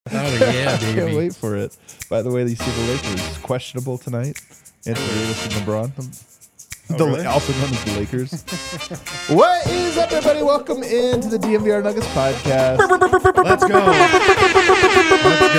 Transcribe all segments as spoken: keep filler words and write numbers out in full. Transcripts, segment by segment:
Oh, yeah, baby. I can't wait for it. By the way, you see the Lakers questionable tonight. Anthony Davis and LeBron. Oh, The, really? Also known as the Lakers. What is up, everybody? Welcome into the D M V R Nuggets podcast. Let's go. Let's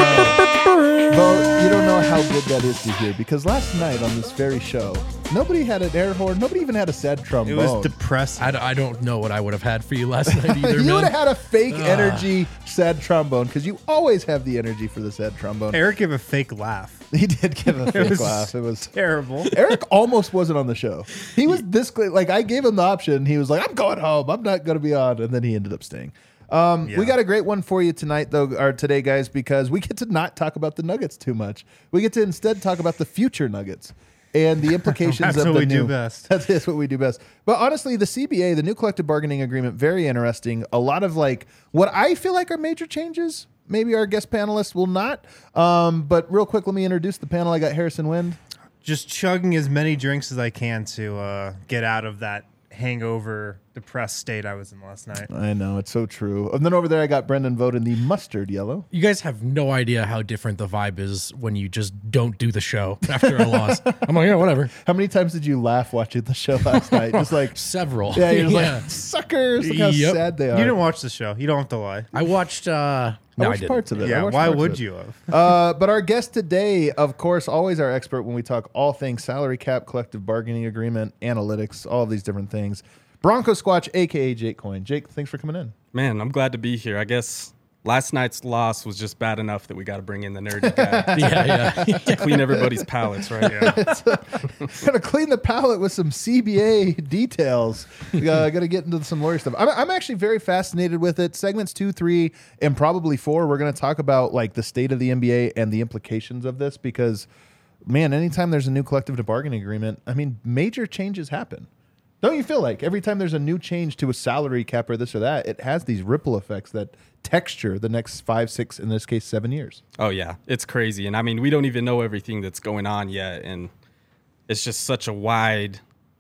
go. Bo, you don't know how good that is to hear because last night on this very show, nobody had an air horn. Nobody even had a sad trombone. It was depressing. I, d- I don't know what I would have had for you last night either, you man. would have had a fake energy sad trombone because you always have the energy for the sad trombone. Eric gave a fake laugh. He did give a fake was laugh. It was Terrible. Eric almost wasn't on the show. He was this cl- like I gave him the option. He was like, "I'm going home. I'm not going to be on," and then he ended up staying. Um, Yeah. We got a great one for you tonight, though, or today, guys, because we get to not talk about the Nuggets too much. We get to instead talk about the future Nuggets and the implications That's of what the we new. do best. That is what we do best. But honestly, the C B A, the new collective bargaining agreement, very interesting. A lot of like what I feel like are major changes. Maybe our guest panelists will not. Um, but real quick, let me introduce the panel. I got Harrison Wind. Just chugging as many drinks as I can to uh, get out of that hangover, depressed state I was in last night. I know, it's so true. And then over there, I got Brendan Vogt in the mustard yellow. You guys have no idea how different the vibe is when you just don't do the show after a loss. I'm like, yeah, whatever. How many times did you laugh watching the show last night? Just like, Several. yeah, you're Yeah. like, suckers, look how Yep. sad they are. You didn't watch the show. You don't have to lie. I watched. Uh, I no, I watched didn't. parts of it. I Yeah, watched why parts of would it. you have? Uh, but our guest today, of course, always our expert when we talk all things salary cap, collective bargaining agreement, analytics, all of these different things. Bronco Squatch, a k a. Jake Coyne. Jake, thanks for coming in. Man, I'm glad to be here. I guess last night's loss was just bad enough that we got to bring in the nerdy guy Yeah, yeah. to clean everybody's palates, right? Yeah. Gonna clean the palette with some C B A details. uh, gonna get into some lawyer stuff. I'm, I'm actually very fascinated with it. Segments two, three, and probably four. We're gonna talk about like the state of the N B A and the implications of this because, man, anytime there's a new collective bargaining agreement, I mean, major changes happen. Don't you feel like every time there's a new change to a salary cap or this or that, it has these ripple effects that texture the next five, six, in this case, seven years? Oh, yeah. It's crazy. And I mean, we don't even know everything that's going on yet. And it's just such a wide,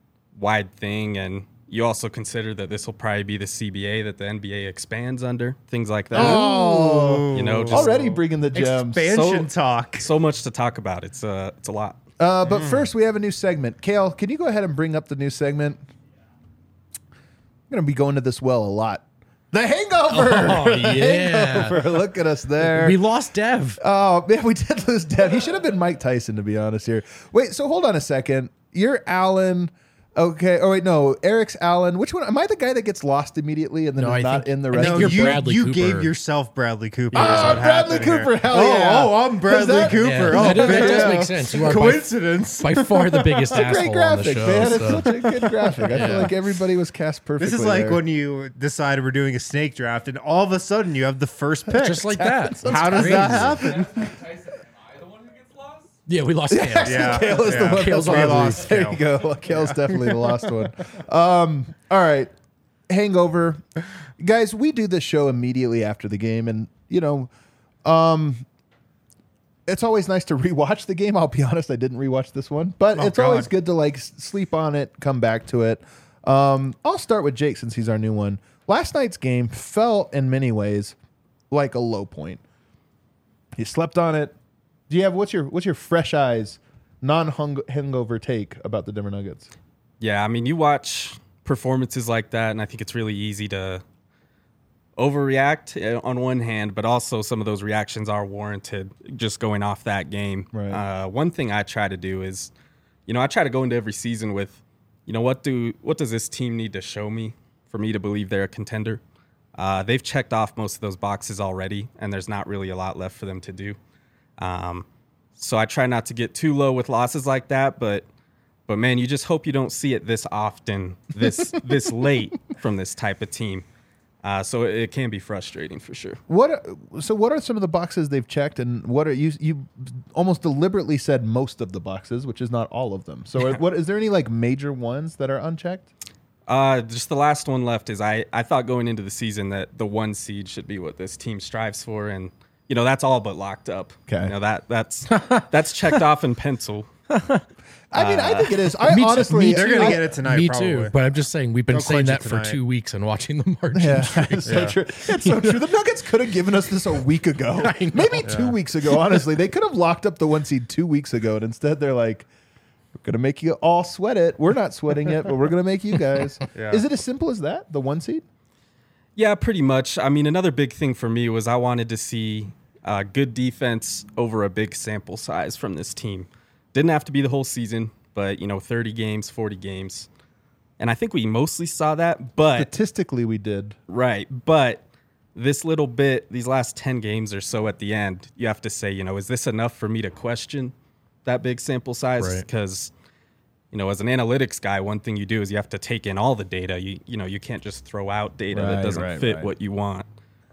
wide thing. And you also consider that this will probably be the C B A that the N B A expands under, things like that. Oh, You know, just already bringing the gems. Expansion So- talk. so much to talk about. It's, uh, it's a lot. Uh, but first, we have a new segment. Kale, can you go ahead and bring up the new segment? I'm going to be going to this well a lot. The Hangover! Oh, yeah. Hangover. Look at us there. We lost Dev. Oh, man, we did lose Dev. He should have been Mike Tyson, to be honest here. Wait, so hold on a second. You're Alan. Okay. Oh, wait, no. Eric's Alan. Which one? Am I the guy that gets lost immediately and then No, is I not think- in the I rest think of No, you're the you, Bradley you Cooper. gave yourself Bradley Cooper. is Ah, what Bradley happened here. Cooper, hell oh, yeah. Oh, I'm Bradley that- Cooper. Yeah, oh, that, does, that big- does yeah. make sense. You are by, Coincidence. by far the biggest It's a asshole great on the graphic, show. man. so. It's such a good graphic. I feel Yeah. like everybody was cast perfectly. This is like there. when you decided we're doing a snake draft, and all of a sudden you have the first pick. Just like that. How does Crazy. that happen? Yeah, we lost Kale. Yeah, Kale is the yeah. one Kale's that's on the lost. lead. There you go. Kale's definitely the lost one. Um, all right. Hangover. Guys, we do this show immediately after the game. And, you know, um, it's always nice to rewatch the game. I'll be honest, I didn't rewatch this one. But Oh, it's always God. good to, like, s- sleep on it, come back to it. Um, I'll start with Jake since he's our new one. Last night's game felt, in many ways, like a low point. You slept on it. Do you have what's your what's your fresh eyes, non hangover take about the Denver Nuggets? Yeah, I mean, you watch performances like that, and I think it's really easy to overreact uh, on one hand, but also some of those reactions are warranted just going off that game. Right. Uh, one thing I try to do is, you know, I try to go into every season with, you know, what do what does this team need to show me for me to believe they're a contender? Uh, they've checked off most of those boxes already, and there's not really a lot left for them to do. Um, so I try not to get too low with losses like that, but but man, you just hope you don't see it this often, this this late from this type of team. Uh, so it, it can be frustrating for sure. What so what are some of the boxes they've checked, and what are you you almost deliberately said most of the boxes, which is not all of them. So what is there any like major ones that are unchecked? Uh, just the last one left is I, I thought going into the season that the one seed should be what this team strives for, and you know that's all but locked up. Okay. You know that that's that's checked off in pencil. I mean, I think it is. I Me too- honestly, me They're too. gonna I- get it tonight. Me probably. too, but I'm just saying we've been They'll saying clinch that it for tonight. two weeks and watching the margin. Yeah, streak. it's so Yeah. true. It's so true. The Nuggets could have given us this a week ago, maybe two weeks ago. Honestly, they could have locked up the one seed two weeks ago, and instead they're like, "We're gonna make you all sweat it. We're not sweating it, but we're gonna make you guys." Yeah. Is it as simple as that? The one seed? Yeah, pretty much. I mean, another big thing for me was I wanted to see uh, good defense over a big sample size from this team. Didn't have to be the whole season, but, you know, thirty games, forty games. And I think we mostly saw that, but... Statistically, we did. Right, but this little bit, these last ten games or so at the end, you have to say, you know, is this enough for me to question that big sample size? Right. Because... You know, as an analytics guy, one thing you do is you have to take in all the data. You you know, you can't just throw out data Right, that doesn't right, fit right. what you want.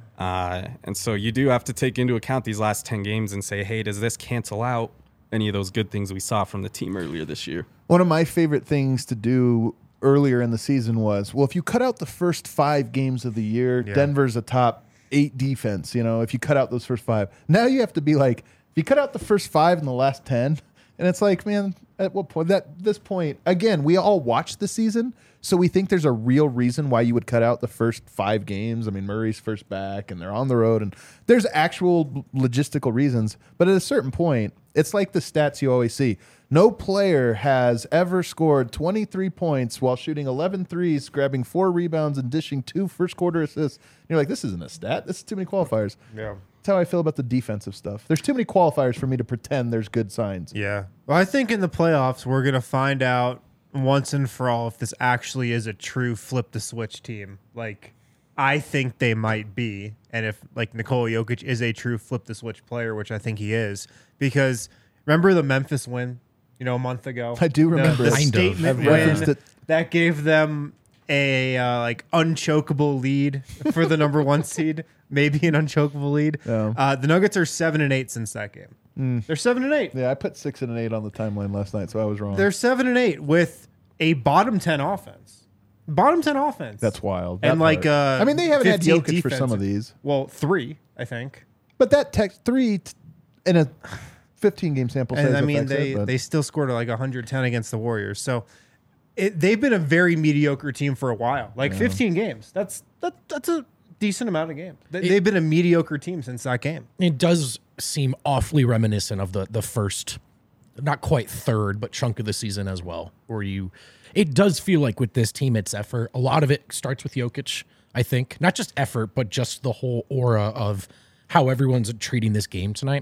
Uh, and so you do have to take into account these last ten games and say, hey, does this cancel out any of those good things we saw from the team earlier this year? One of my favorite things to do earlier in the season was, well, if you cut out the first five games of the year, Yeah. Denver's a top eight defense. You know, if you cut out those first five, now you have to be like, if you cut out the first five and the last ten, and it's like, man, at what point? That this point, again, we all watch the season, so we think there's a real reason why you would cut out the first five games. I mean, Murray's first back, and they're on the road, and there's actual logistical reasons. But at a certain point, it's like the stats you always see. No player has ever scored twenty-three points while shooting eleven threes, grabbing four rebounds, and dishing two first quarter assists. And you're like, this isn't a stat. This is too many qualifiers. Yeah. That's how I feel about the defensive stuff. There's too many qualifiers for me to pretend there's good signs. Yeah. Well, I think in the playoffs, we're going to find out once and for all if this actually is a true flip the switch team. Like, I think they might be. And if, like, Nikola Jokic is a true flip the switch player, which I think he is. Because remember the Memphis win, you know, a month ago? I do remember the, it. the Kind of. statement I've win referenced it. that gave them a uh, like unchokable lead for the number one seed, maybe an unchokable lead. Yeah. Uh, the Nuggets are seven and eight since that game. They're seven and eight. Yeah, I put six and an eight on the timeline last night, so I was wrong. They're seven and eight with a bottom ten offense. Bottom ten offense. That's wild. And That like, part. uh, I mean, they haven't had fifteen Jokic for some of defensive. these, Well, three, I think. but that text three t- in a fifteen game sample size. And I mean, affects they it, but- they still scored like one hundred ten against the Warriors. So it, they've been a very mediocre team for a while. Like fifteen games. That's that that's a decent amount of games. They, they've been a mediocre team since that game. It does seem awfully reminiscent of the the first, not quite third, but chunk of the season as well, where you, it does feel like with this team, it's effort. A lot of it starts with Jokic, I think. Not just effort, but just the whole aura of how everyone's treating this game tonight.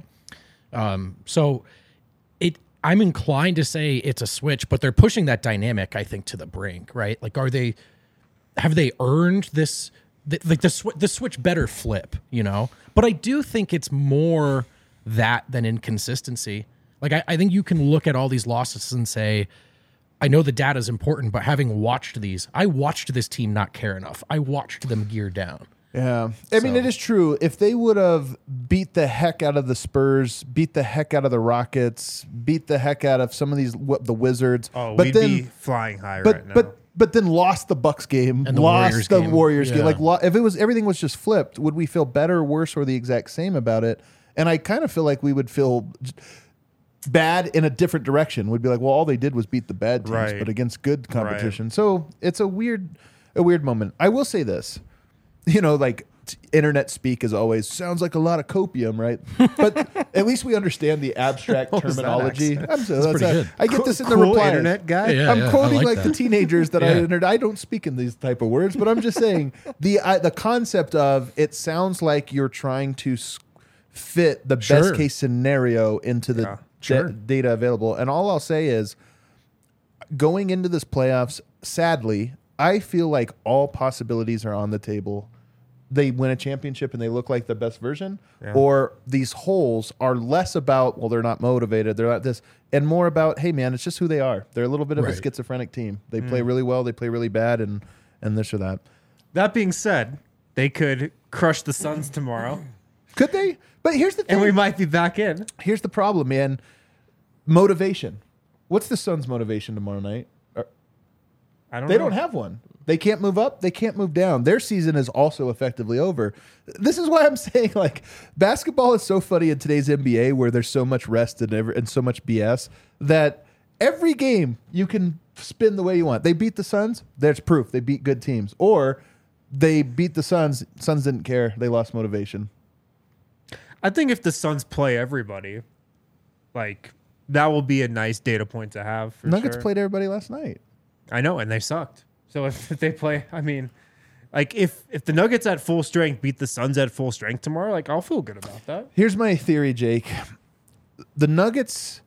Um, so it, I'm inclined to say it's a switch, but they're pushing that dynamic, I think, to the brink, right? Like, are they, have they earned this, th- like the, sw- the switch better flip, you know? But I do think it's more that than inconsistency. Like, I, I think you can look at all these losses and say, I know the data is important, but having watched these, I watched this team not care enough. I watched them gear down. Yeah. I mean, So- it is true. If they would have beat the heck out of the Spurs, beat the heck out of the Rockets, beat the heck out of some of these, what, the Wizards. Oh, but we'd then, be flying high but, right now. but, but then lost the Bucks game, And the lost Warriors the game. Warriors game. Yeah. Like, lo- if it was everything was just flipped, would we feel better, worse, or the exact same about it? And I kind of feel like we would feel j- bad in a different direction. We'd be like, well, all they did was beat the bad teams, Right. but against good competition. So it's a weird, a weird moment. I will say this, you know, like t- internet speak is always sounds like a lot of copium, right? But at least we understand the abstract was that terminology. I'm so, That's that's pretty a- good. I get this in the Cool replies. internet guy. Yeah. I'm quoting I like, like the that. teenagers that I Yeah. entered. I don't speak in these type of words, but I'm just saying the I, the concept of it sounds like you're trying to s- fit the Sure. best case scenario into the Yeah, da- sure. data available. And all I'll say is going into this playoffs, sadly, I feel like all possibilities are on the table. They win a championship and they look like the best version, Yeah. or these holes are less about, well, they're not motivated, they're not this, and more about, hey, man, it's just who they are. They're a little bit of a Right. schizophrenic team. They play really well, they play really bad, and and this or that. That being said, they could crush the Suns tomorrow, Could they? But here's the thing. and we might be back in. Here's the problem, man. Motivation. What's the Suns' motivation tomorrow night? Are- I don't They know. don't have one. They can't move up. They can't move down. Their season is also effectively over. This is why I'm saying, like, basketball is so funny in today's N B A where there's so much rest and, ever, and so much B S that every game you can spin the way you want. They beat the Suns. There's proof they beat good teams. Or they beat the Suns. Suns didn't care. They lost motivation. I think if the Suns play everybody, like that will be a nice data point to have. For Nuggets sure. played everybody last night. I know, and they sucked. So if, if they play, I mean, like if if the Nuggets at full strength beat the Suns at full strength tomorrow, like I'll feel good about that. Here's my theory, Jake. The Nuggets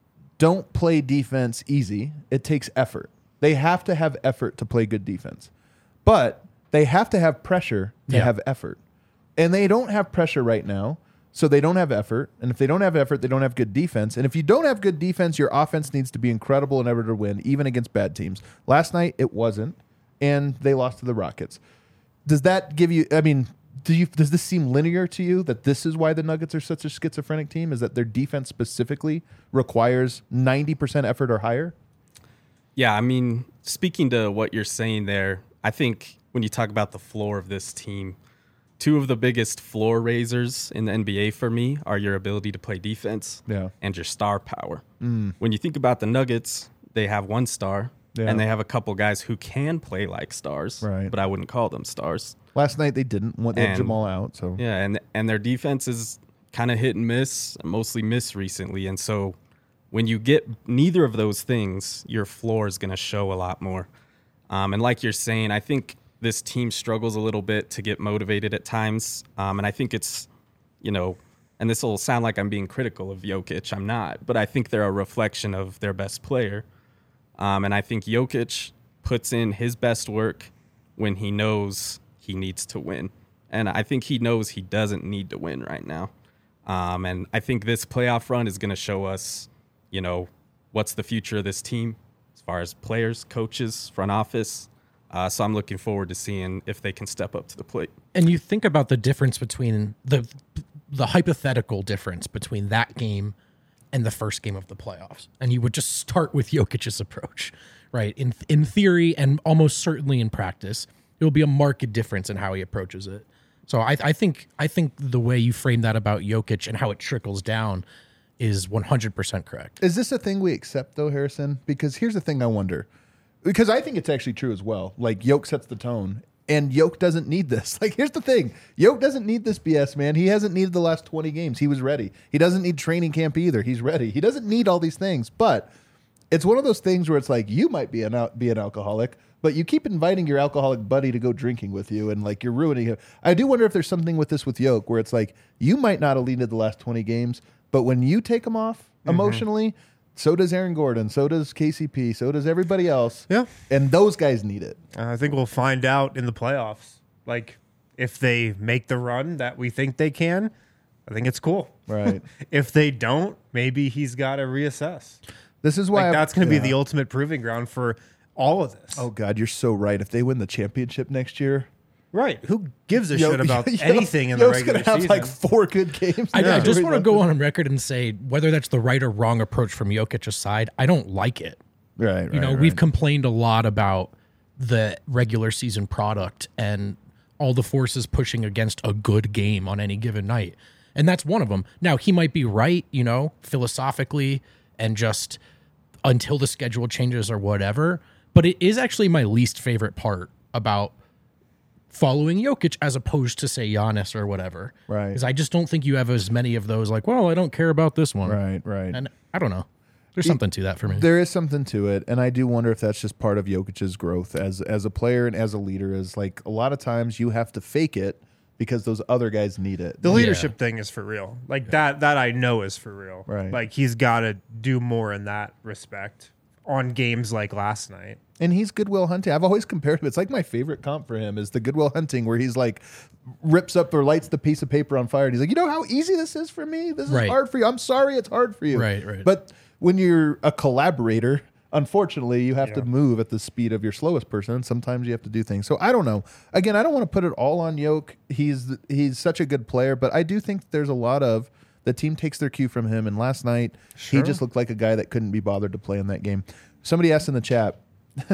don't play defense easy. It takes effort. They have to have effort to play good defense. But they have to have pressure to Yeah. have effort. And they don't have pressure right now, so they don't have effort. And if they don't have effort, they don't have good defense. And if you don't have good defense, your offense needs to be incredible in order to win, even against bad teams. Last night, it wasn't, and they lost to the Rockets. Does that give you, I mean, do you, does this seem linear to you that this is why the Nuggets are such a schizophrenic team, is that their defense specifically requires ninety percent effort or higher? Yeah, I mean, speaking to what you're saying there, I think when you talk about the floor of this team, two of the biggest floor raisers in the N B A for me are your ability to play defense Yeah. and your star power. Mm. When you think about the Nuggets, they have one star, Yeah. and they have a couple guys who can play like stars, Right. but I wouldn't call them stars. Last night they didn't. They had And- Jamal out, so Yeah, and and their defense is kind of hit and miss, mostly miss recently. And so when you get neither of those things, your floor is going to show a lot more. Um, and like you're saying, I think this team struggles a little bit to get motivated at times. Um, and I think it's, you know, and this will sound like I'm being critical of Jokic. I'm not, but I think they're a reflection of their best player. Um, and I think Jokic puts in his best work when he knows he needs to win. And I think he knows he doesn't need to win right now. Um, and I think this playoff run is going to show us, you know, what's the future of this team as far as players, coaches, front office. Uh, so I'm looking forward to seeing if they can step up to the plate. And you think about the difference between the the hypothetical difference between that game and the first game of the playoffs. And you would just start with Jokic's approach, right? In in theory and almost certainly in practice, it will be a marked difference in how he approaches it. So I, I think I think the way you frame that about Jokic and how it trickles down is one hundred percent correct. is this a thing we accept though, Harrison? Because here's the thing I wonder. Because I think it's actually true as well. Like Yoke sets the tone, and Yoke doesn't need this. Like here's the thing: Yoke doesn't need this B S, man. He hasn't needed the last twenty games. He was ready. He doesn't need training camp either. He's ready. He doesn't need all these things. But it's one of those things where it's like you might be an al- be an alcoholic, but you keep inviting your alcoholic buddy to go drinking with you, and like you're ruining him. I do wonder if there's something with this with Yoke, where it's like you might not have needed the last twenty games, but when you take him off emotionally. So does Aaron Gordon. So does K C P. So does everybody else. Yeah. And those guys need it. Uh, I think we'll find out in the playoffs. Like, if they make the run that we think they can, I think it's cool. Right. If they don't, maybe he's got to reassess. This is why Like, I- that's going to yeah. be the ultimate proving ground for all of this. Oh God, you're so right. If they win the championship next year, Right. Who gives a Yo- shit about Yo- anything in the Yoke's regular gonna have season? like four good games. I, I just want to go on. on record and say whether that's the right or wrong approach from Jokic's side, I don't like it. Right, right. You know, right. we've complained a lot about the regular season product and all the forces pushing against a good game on any given night. And that's one of them. Now, he might be right, you know, philosophically and just until the schedule changes or whatever. But it is actually my least favorite part about following Jokic as opposed to, say, Giannis or whatever. Right. Because I just don't think you have as many of those like, well, I don't care about this one. Right, right. And I don't know. There's something to that for me. There is something to it, and I do wonder if that's just part of Jokic's growth as as a player and as a leader. Is like a lot of times you have to fake it because those other guys need it. The leadership thing is for real. Like that that I know is for real. Right. Like he's got to do more in that respect on games like last night. And he's Goodwill Hunting. I've always compared him. It's like my favorite comp for him is the Goodwill Hunting, where he's like rips up or lights the piece of paper on fire. And he's like, you know how easy this is for me? This is Right. hard for you. I'm sorry it's hard for you. Right, right. But when you're a collaborator, unfortunately, you have to Yeah. move at the speed of your slowest person. And sometimes you have to do things. So I don't know. Again, I don't want to put it all on Yoke. He's he's such a good player, but I do think there's a lot of the team takes their cue from him. And last night, he Sure. just looked like a guy that couldn't be bothered to play in that game. Somebody asked in the chat,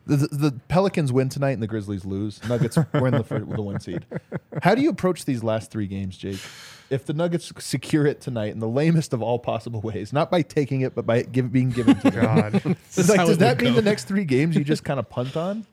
The, the Pelicans win tonight and the Grizzlies lose. Nuggets were in the, fir- the one seed. How do you approach these last three games, Jake? If the Nuggets secure it tonight in the lamest of all possible ways, not by taking it, but by give, being given to them. God. It's is like, how does it that would mean go. the next three games you just kind of punt on?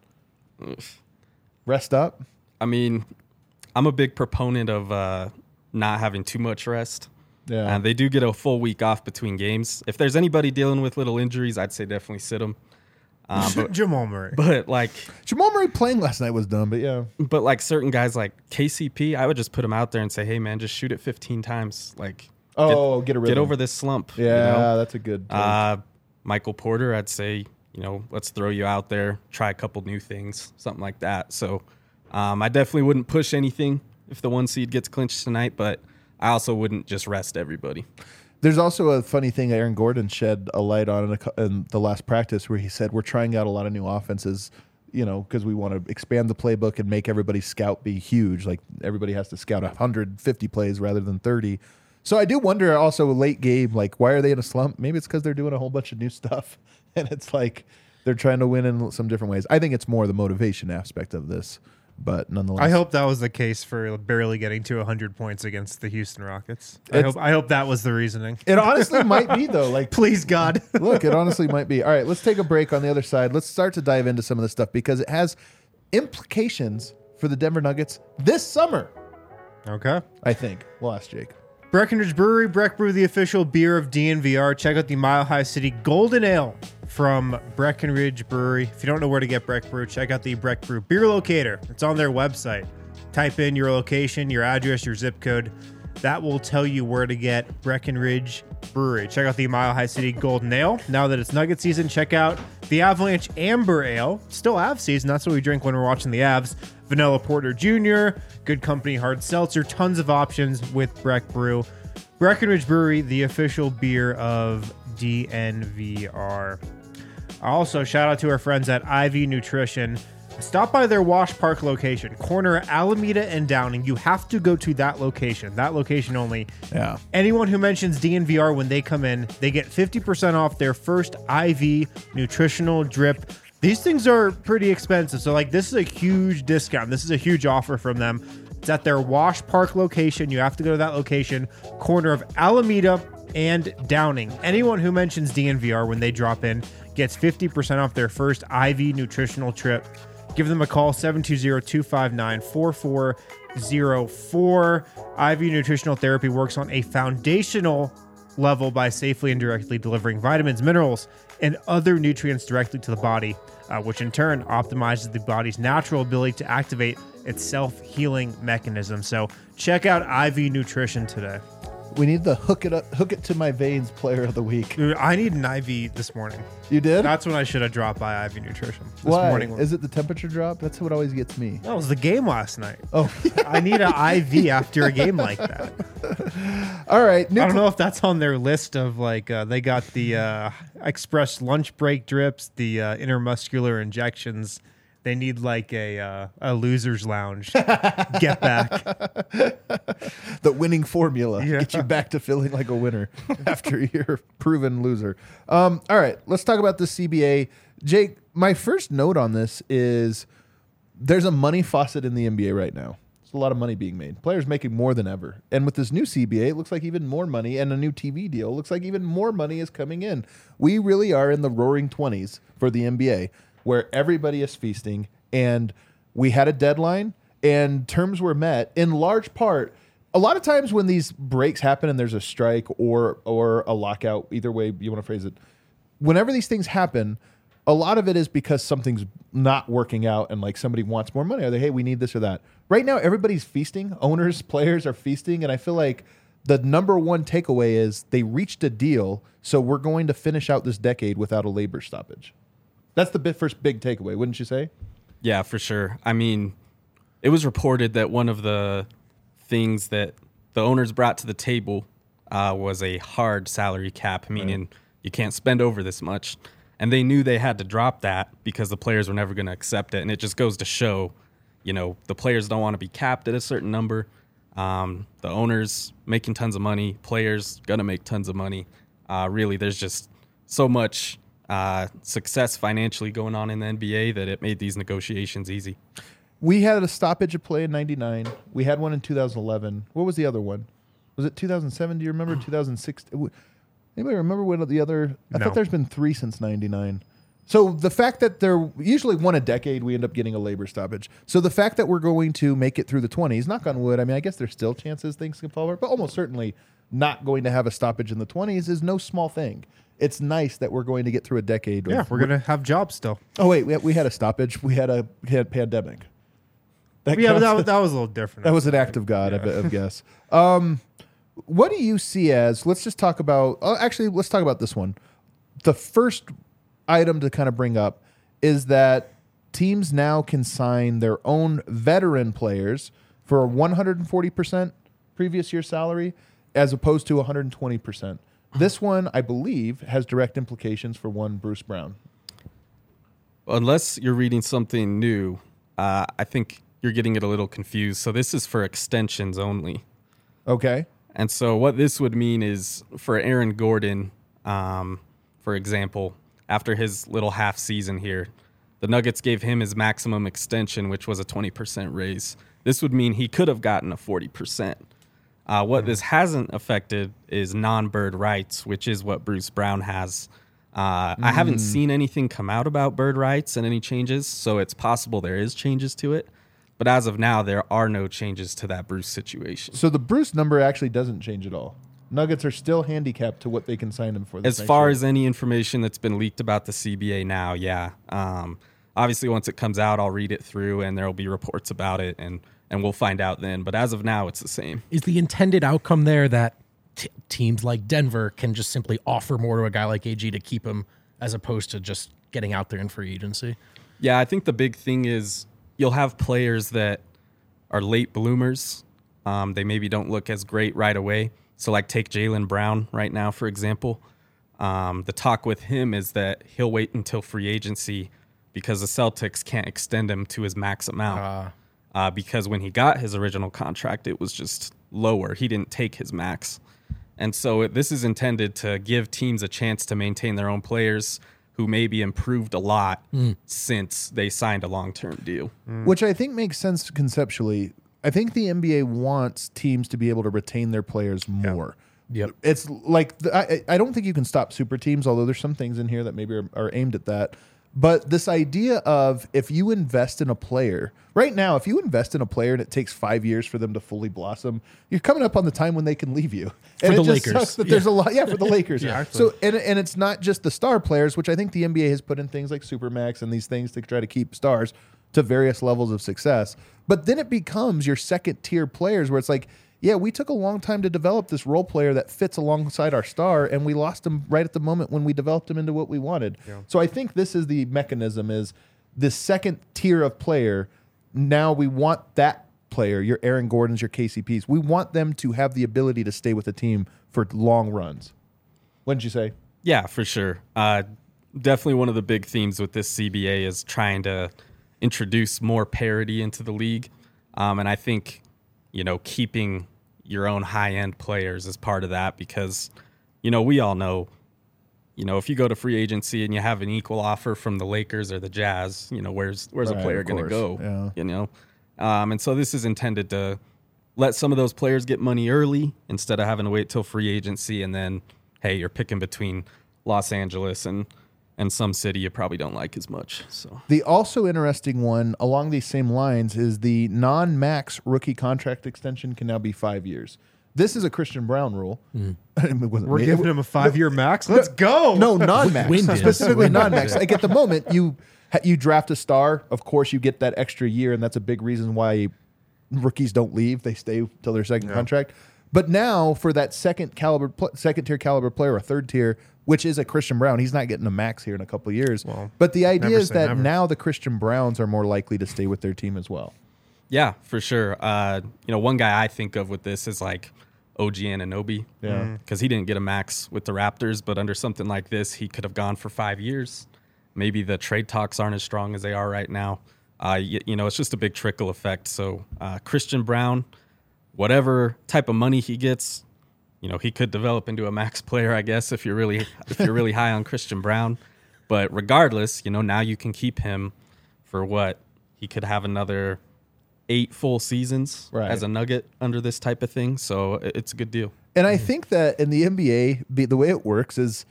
Rest up? I mean, I'm a big proponent of uh, not having too much rest. Yeah. And they do get a full week off between games. If there's anybody dealing with little injuries, I'd say definitely sit them. Um, but, Jamal Murray. but like, Jamal Murray playing last night was dumb, but yeah. but like certain guys like K C P, I would just put him out there and say, hey man, just shoot it fifteen times. Like, Oh, get, a get rhythm. over this slump. Yeah, you know? that's a good take. Uh, Michael Porter, I'd say, you know, let's throw you out there, try a couple new things, something like that. So um, I definitely wouldn't push anything if the one seed gets clinched tonight, but I also wouldn't just rest everybody. There's also a funny thing Aaron Gordon shed a light on in, a, cou- in the last practice where he said we're trying out a lot of new offenses, you know, because we want to expand the playbook and make everybody's scout be huge. Like everybody has to scout one hundred fifty plays rather than thirty. So I do wonder also late game, like why are they in a slump? Maybe it's because they're doing a whole bunch of new stuff and it's like they're trying to win in some different ways. I think it's more the motivation aspect of this, but nonetheless. I hope that was the case for barely getting to one hundred points against the Houston Rockets. I It's- hope I hope that was the reasoning. It honestly might be though. Like Please, God. Look, it honestly might be. All right, let's take a break on the other side. Let's start to dive into some of this stuff because it has implications for the Denver Nuggets this summer, Okay. I think. We'll ask Jake. Breckenridge Brewery, Breck Brew, the official beer of D N V R. Check out the Mile High City Golden Ale from Breckenridge Brewery. If you don't know where to get Breck Brew, check out the Breck Brew Beer Locator. It's on their website. Type in your location, your address, your zip code. That will tell you where to get Breckenridge Brewery. Check out the Mile High City Golden Ale. Now that it's Nugget season, check out the Avalanche Amber Ale. Still Av season. That's what we drink when we're watching the Avs. Vanilla Porter Junior, Good Company Hard Seltzer. Tons of options with Breck Brew. Breckenridge Brewery, the official beer of D N V R. Also, shout out to our friends at Ivy Nutrition. Stop by their Wash Park location, corner Alameda and Downing. You have to go to that location, that location only. Yeah. Anyone who mentions D N V R when they come in, they get fifty percent off their first I V nutritional drip. These things are pretty expensive. So, like, this is a huge discount. This is a huge offer from them. It's at their Wash Park location. You have to go to that location, corner of Alameda and Downing. Anyone who mentions D N V R when they drop in gets fifty percent off their first I V nutritional trip. Give them a call, seven two zero, two five nine, four four zero four. I V Nutritional Therapy works on a foundational level by safely and directly delivering vitamins, minerals, and other nutrients directly to the body, uh, which in turn optimizes the body's natural ability to activate its self-healing mechanism. So check out I V Nutrition today. We need the hook it up, hook it to my veins player of the week. Dude, I need an I V this morning. You did? That's when I should have dropped by I V Nutrition this Why? morning. Is it the temperature drop? That's what always gets me. That was the game last night. Oh, I need an I V after a game like that. all right. New I don't know if that's on their list of like uh, they got the uh, express lunch break drips, the uh, intermuscular injections. They need like a uh, a loser's lounge. Get back. The winning formula. Yeah. Get you back to feeling like a winner after you're a proven loser. Um, all right, let's talk about the C B A. Jake, my first note on this is there's a money faucet in the N B A right now. There's a lot of money being made. Players making more than ever. And with this new C B A, it looks like even more money, and a new T V deal, it looks like even more money is coming in. We really are in the roaring twenties for the N B A, where everybody is feasting, and we had a deadline, and terms were met in large part. A lot of times when these breaks happen and there's a strike or or a lockout, either way you want to phrase it, whenever these things happen, a lot of it is because something's not working out and like somebody wants more money. Are they, hey, we need this or that. Right now, everybody's feasting. Owners, players are feasting, and I feel like the number one takeaway is they reached a deal, so we're going to finish out this decade without a labor stoppage. That's the bit first big takeaway, wouldn't you say? Yeah, for sure. I mean, it was reported that one of the things that the owners brought to the table uh, was a hard salary cap, meaning right. you can't spend over this much. And they knew they had to drop that because the players were never going to accept it. And it just goes to show, you know, the players don't want to be capped at a certain number. Um, the owners making tons of money, players going to make tons of money. Uh, really, there's just so much uh, success financially going on in the N B A that it made these negotiations easy. We had a stoppage of play in ninety-nine. We had one in two thousand eleven. What was the other one? Was it two thousand seven? Do you remember two thousand six? Anybody remember what the other? I No. thought there's been three since ninety-nine. So the fact that they're usually one a decade, we end up getting a labor stoppage. So the fact that we're going to make it through the twenties, knock on wood, I mean, I guess there's still chances things can fall over, but almost certainly not going to have a stoppage in the twenties is no small thing. It's nice that we're going to get through a decade. Yeah, of, we're gonna have jobs still. Oh wait, we had, we had a stoppage. We had a we had pandemic. That Yeah, but counts that, was- as- that was a little different. that was an act of God, I, bet, I guess. Um, what do you see as? Let's just talk about. Oh, actually, let's talk about this one. The first item to kind of bring up is that teams now can sign their own veteran players for one hundred forty percent previous year salary, as opposed to one hundred twenty percent. This one, I believe, has direct implications for one Bruce Brown. Unless you're reading something new, uh, I think you're getting it a little confused. So this is for extensions only. Okay. And so what this would mean is for Aaron Gordon, um, for example, after his little half season here, the Nuggets gave him his maximum extension, which was a twenty percent raise. This would mean he could have gotten a forty percent. Uh, what this hasn't affected is non-bird rights, which is what Bruce Brown has. Uh, I haven't seen anything come out about bird rights and any changes, so it's possible there is changes to it. But as of now, there are no changes to that Bruce situation. So the Bruce number actually doesn't change at all. Nuggets are still handicapped to what they can sign him for. This As next far year. as any information that's been leaked about the C B A now, yeah. Um, obviously, once it comes out, I'll read it through, and there will be reports about it, and and we'll find out then. But as of now, it's the same. Is the intended outcome there that t- teams like Denver can just simply offer more to a guy like A G to keep him, as opposed to just getting out there in free agency? Yeah, I think the big thing is you'll have players that are late bloomers. Um, they maybe don't look as great right away. So, like, take Jaylen Brown right now, for example. Um, the talk with him is that he'll wait until free agency because the Celtics can't extend him to his max amount. Uh, Uh, because when he got his original contract, it was just lower. He didn't take his max. And so it, this is intended to give teams a chance to maintain their own players who maybe improved a lot since they signed a long-term deal. Which I think makes sense conceptually. I think the N B A wants teams to be able to retain their players more. Yep. It's like, the, I, I don't think you can stop super teams, although there's some things in here that maybe are, are aimed at that. But this idea of if you invest in a player, right now, if you invest in a player and it takes five years for them to fully blossom, you're coming up on the time when they can leave you. And the it just Lakers. sucks that there's a lot, yeah, for the Lakers. Yeah. So and and it's not just the star players, which I think the N B A has put in things like Supermax and these things to try to keep stars to various levels of success. But then it becomes your second tier players where it's like, yeah, we took a long time to develop this role player that fits alongside our star, and we lost him right at the moment when we developed him into what we wanted. Yeah. So I think this is the mechanism: is this second tier of player. Now we want that player, your Aaron Gordons, your K C Ps. We want them to have the ability to stay with the team for long runs. What did you say? Yeah, for sure. Uh, definitely one of the big themes with this C B A is trying to introduce more parity into the league. Um, and I think, you know, keeping your own high-end players is part of that because, you know, we all know, you know, if you go to free agency and you have an equal offer from the Lakers or the Jazz, you know, where's where's Right, a player of going to course. go? Yeah. You know? Um, and so this is intended to let some of those players get money early instead of having to wait till free agency and then, hey, you're picking between Los Angeles and and some city you probably don't like as much. So The also interesting one along these same lines is the non-max rookie contract extension can now be five years. This is a Christian Brown rule. It wasn't We're me. giving him a five-year max. Let's go. No, non-max. Win did. Specifically Win non-max. did. Like at the moment, you you draft a star. Of course, you get that extra year, and that's a big reason why rookies don't leave. They stay till their second contract. But now, for that second caliber, pl- second tier caliber player, or third tier, which is a Christian Brown, he's not getting a max here in a couple of years. Well, but the idea never is say that never. now the Christian Browns are more likely to stay with their team as well. yeah, for sure. Uh, you know, one guy I think of with this is like O G Anunoby. Yeah. Because he didn't get a max with the Raptors, but under something like this, he could have gone for five years. Maybe the trade talks aren't as strong as they are right now. Uh, you, you know, it's just a big trickle effect. So uh, Christian Brown, whatever type of money he gets, you know, he could develop into a max player, I guess, if you're really if you're really high on Christian Brown. But regardless, you know, now you can keep him for what? He could have another eight full seasons Right. as a Nugget under this type of thing. So it's a good deal. And I think that in the N B A, be- the way it works is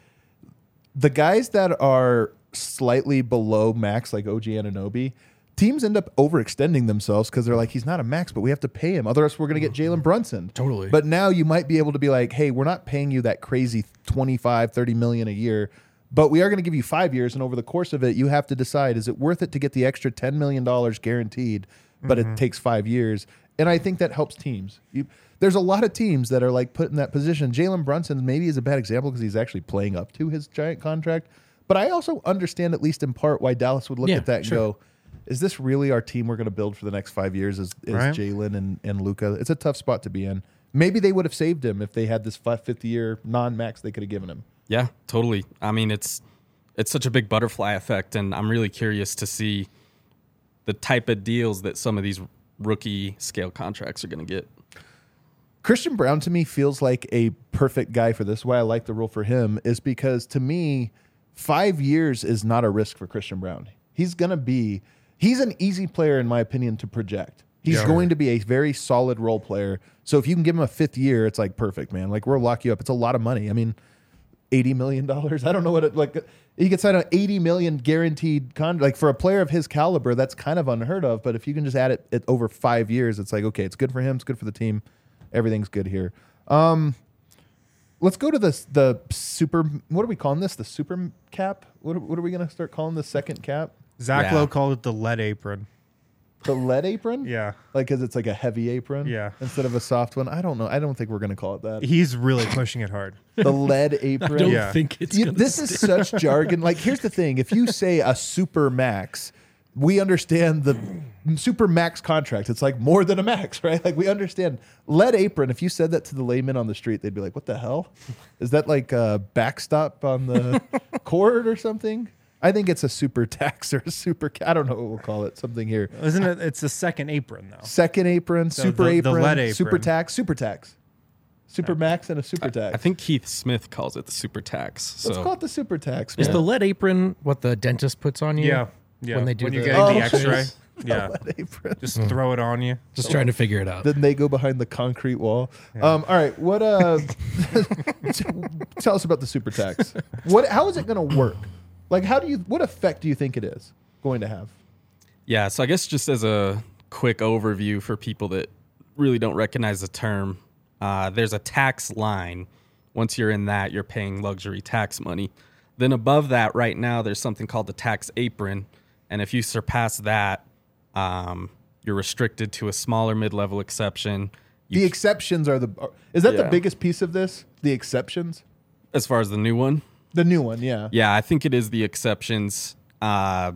the guys that are slightly below max, like O G Anunoby, teams end up overextending themselves because they're like, he's not a max, but we have to pay him. Otherwise, we're going to get Jalen Brunson. Totally. But now you might be able to be like, hey, we're not paying you that crazy twenty-five, thirty million a year, but we are going to give you five years. And over the course of it, you have to decide, is it worth it to get the extra ten million dollars guaranteed, but Mm-hmm. it takes five years? And I think that helps teams. You, there's a lot of teams that are like put in that position. Jalen Brunson maybe is a bad example because he's actually playing up to his giant contract. But I also understand, at least in part, why Dallas would look Yeah, at that and sure. go, is this really our team we're going to build for the next five years is, is Right. Jalen and, and Luka? It's a tough spot to be in. Maybe they would have saved him if they had this fifth year non-max they could have given him. Yeah, totally. I mean, it's it's such a big butterfly effect, and I'm really curious to see the type of deals that some of these rookie scale contracts are going to get. Christian Brown to me feels like a perfect guy for this. Why I like the rule for him is because to me, five years is not a risk for Christian Brown. He's going to be, he's an easy player in my opinion to project. He's Yeah. going to be a very solid role player. So if you can give him a fifth year, it's like perfect, man. Like we'll lock you up. It's a lot of money. I mean, eighty million dollars. I don't know what it like. He gets signed an eighty million dollars guaranteed contract. Like for a player of his caliber, that's kind of unheard of. But if you can just add it, it over five years, it's like, okay, it's good for him. It's good for the team. Everything's good here. Um, let's go to the the super. What are we calling this? The super cap. What are, what are we gonna start calling the second cap? Zach Yeah. Lowe called it the lead apron. The lead apron. Yeah. Like, cause it's like a heavy apron. Yeah. Instead of a soft one. I don't know. I don't think we're gonna call it that. He's really pushing it hard. The lead I apron. don't Yeah. think it's You- gonna this is stick. such jargon. Like, here's the thing: if you say a super max, we understand the super max contract. It's like more than a max, right? Like we understand lead apron. If you said that to the layman on the street, they'd be like, "What the hell? Is that like a backstop on the cord or something?" I think it's a super tax or a super. I don't know what we'll call it. Something here. Isn't it? It's the second apron, though. Second apron, So super the- the apron, lead apron. super tax, super tax, super max, and a super tax. I think Keith Smith calls it the super tax. let's So call it the super tax. Is man. the lead apron what the dentist puts on you? Yeah. Yeah. When they do you're the- getting Oh, the X-ray. jeez. Yeah. lead apron. Just throw it on you. Just trying to figure it out. Then they go behind the concrete wall. Um, all right, what? Uh, tell us about the super tax. What? How is it going to work? Like, how do you? What effect do you think it is going to have? yeah, so I guess just as a quick overview for people that really don't recognize the term, uh, there's a tax line. Once you're in that, you're paying luxury tax money. Then above that, right now, there's something called the tax apron. And if you surpass that, um, you're restricted to a smaller mid-level exception. You The exceptions are the. are- Is that the Yeah. biggest piece of this? The exceptions. As far as the new one, The new one, yeah. yeah, I think it is the exceptions, uh,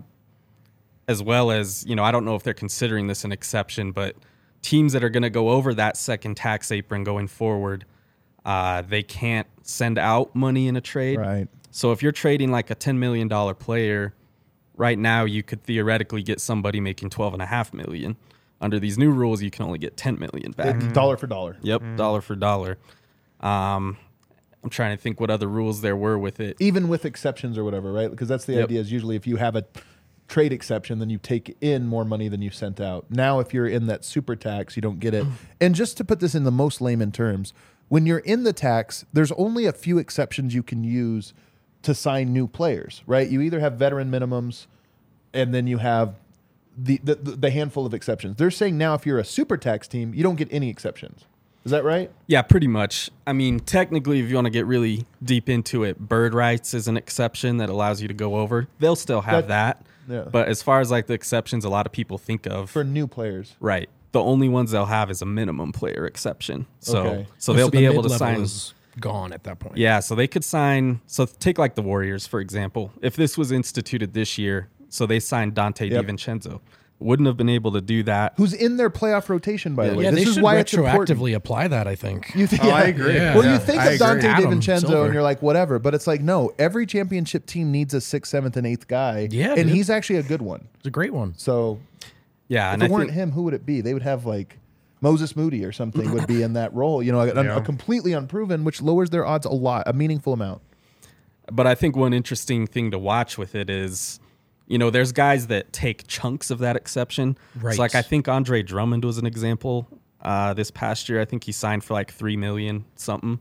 as well as, you know, I don't know if they're considering this an exception, but teams that are going to go over that second tax apron going forward, uh, they can't send out money in a trade. Right. So if you're trading like a ten million dollars player, right now you could theoretically get somebody making twelve and a half million. Under these new rules, you can only get ten million back. It- Dollar for dollar. Yep, dollar for dollar. Um, I'm trying to think what other rules there were with it. Even with exceptions or whatever, right? Because that's the Yep. idea. Is usually if you have a trade exception, then you take in more money than you sent out. Now, if you're in that super tax, you don't get it. And just to put this in the most layman terms, when you're in the tax, there's only a few exceptions you can use to sign new players, right? You either have veteran minimums, and then you have the the, the handful of exceptions. They're saying now if you're a super tax team, you don't get any exceptions. Is that right? Yeah, pretty much. I mean, technically, if you want to get really deep into it, bird rights is an exception that allows you to go over. They'll still have That- that. yeah. But as far as like the exceptions a lot of people think of, For new players. right, the only ones they'll have is a minimum player exception. So Okay. so they'll the be able to mid-level sign. is gone at that point. Yeah, so they could sign. So take like the Warriors, for example. If this was instituted this year, so they signed Dante Yep. DiVincenzo. Wouldn't have been able to do that. Who's in their playoff rotation, by the way. Yeah, this they is should why it's important. retroactively apply that, I think. You think, Oh, I agree. Yeah. Well, Yeah, you think I of agree. Dante Adam DiVincenzo Silver. and you're like, whatever. But it's like, no, every championship team needs a sixth, seventh, and eighth guy. Yeah, And dude. he's actually a good one. It's a great one. So Yeah, if and it I weren't think, him, who would it be? They would have like Moses Moody or something would be in that role. You know, a, Yeah. a completely unproven, which lowers their odds a lot, a meaningful amount. But I think one interesting thing to watch with it is, you know, there's guys that take chunks of that exception. Right. So like I think Andre Drummond was an example uh, this past year. I think he signed for like three million something.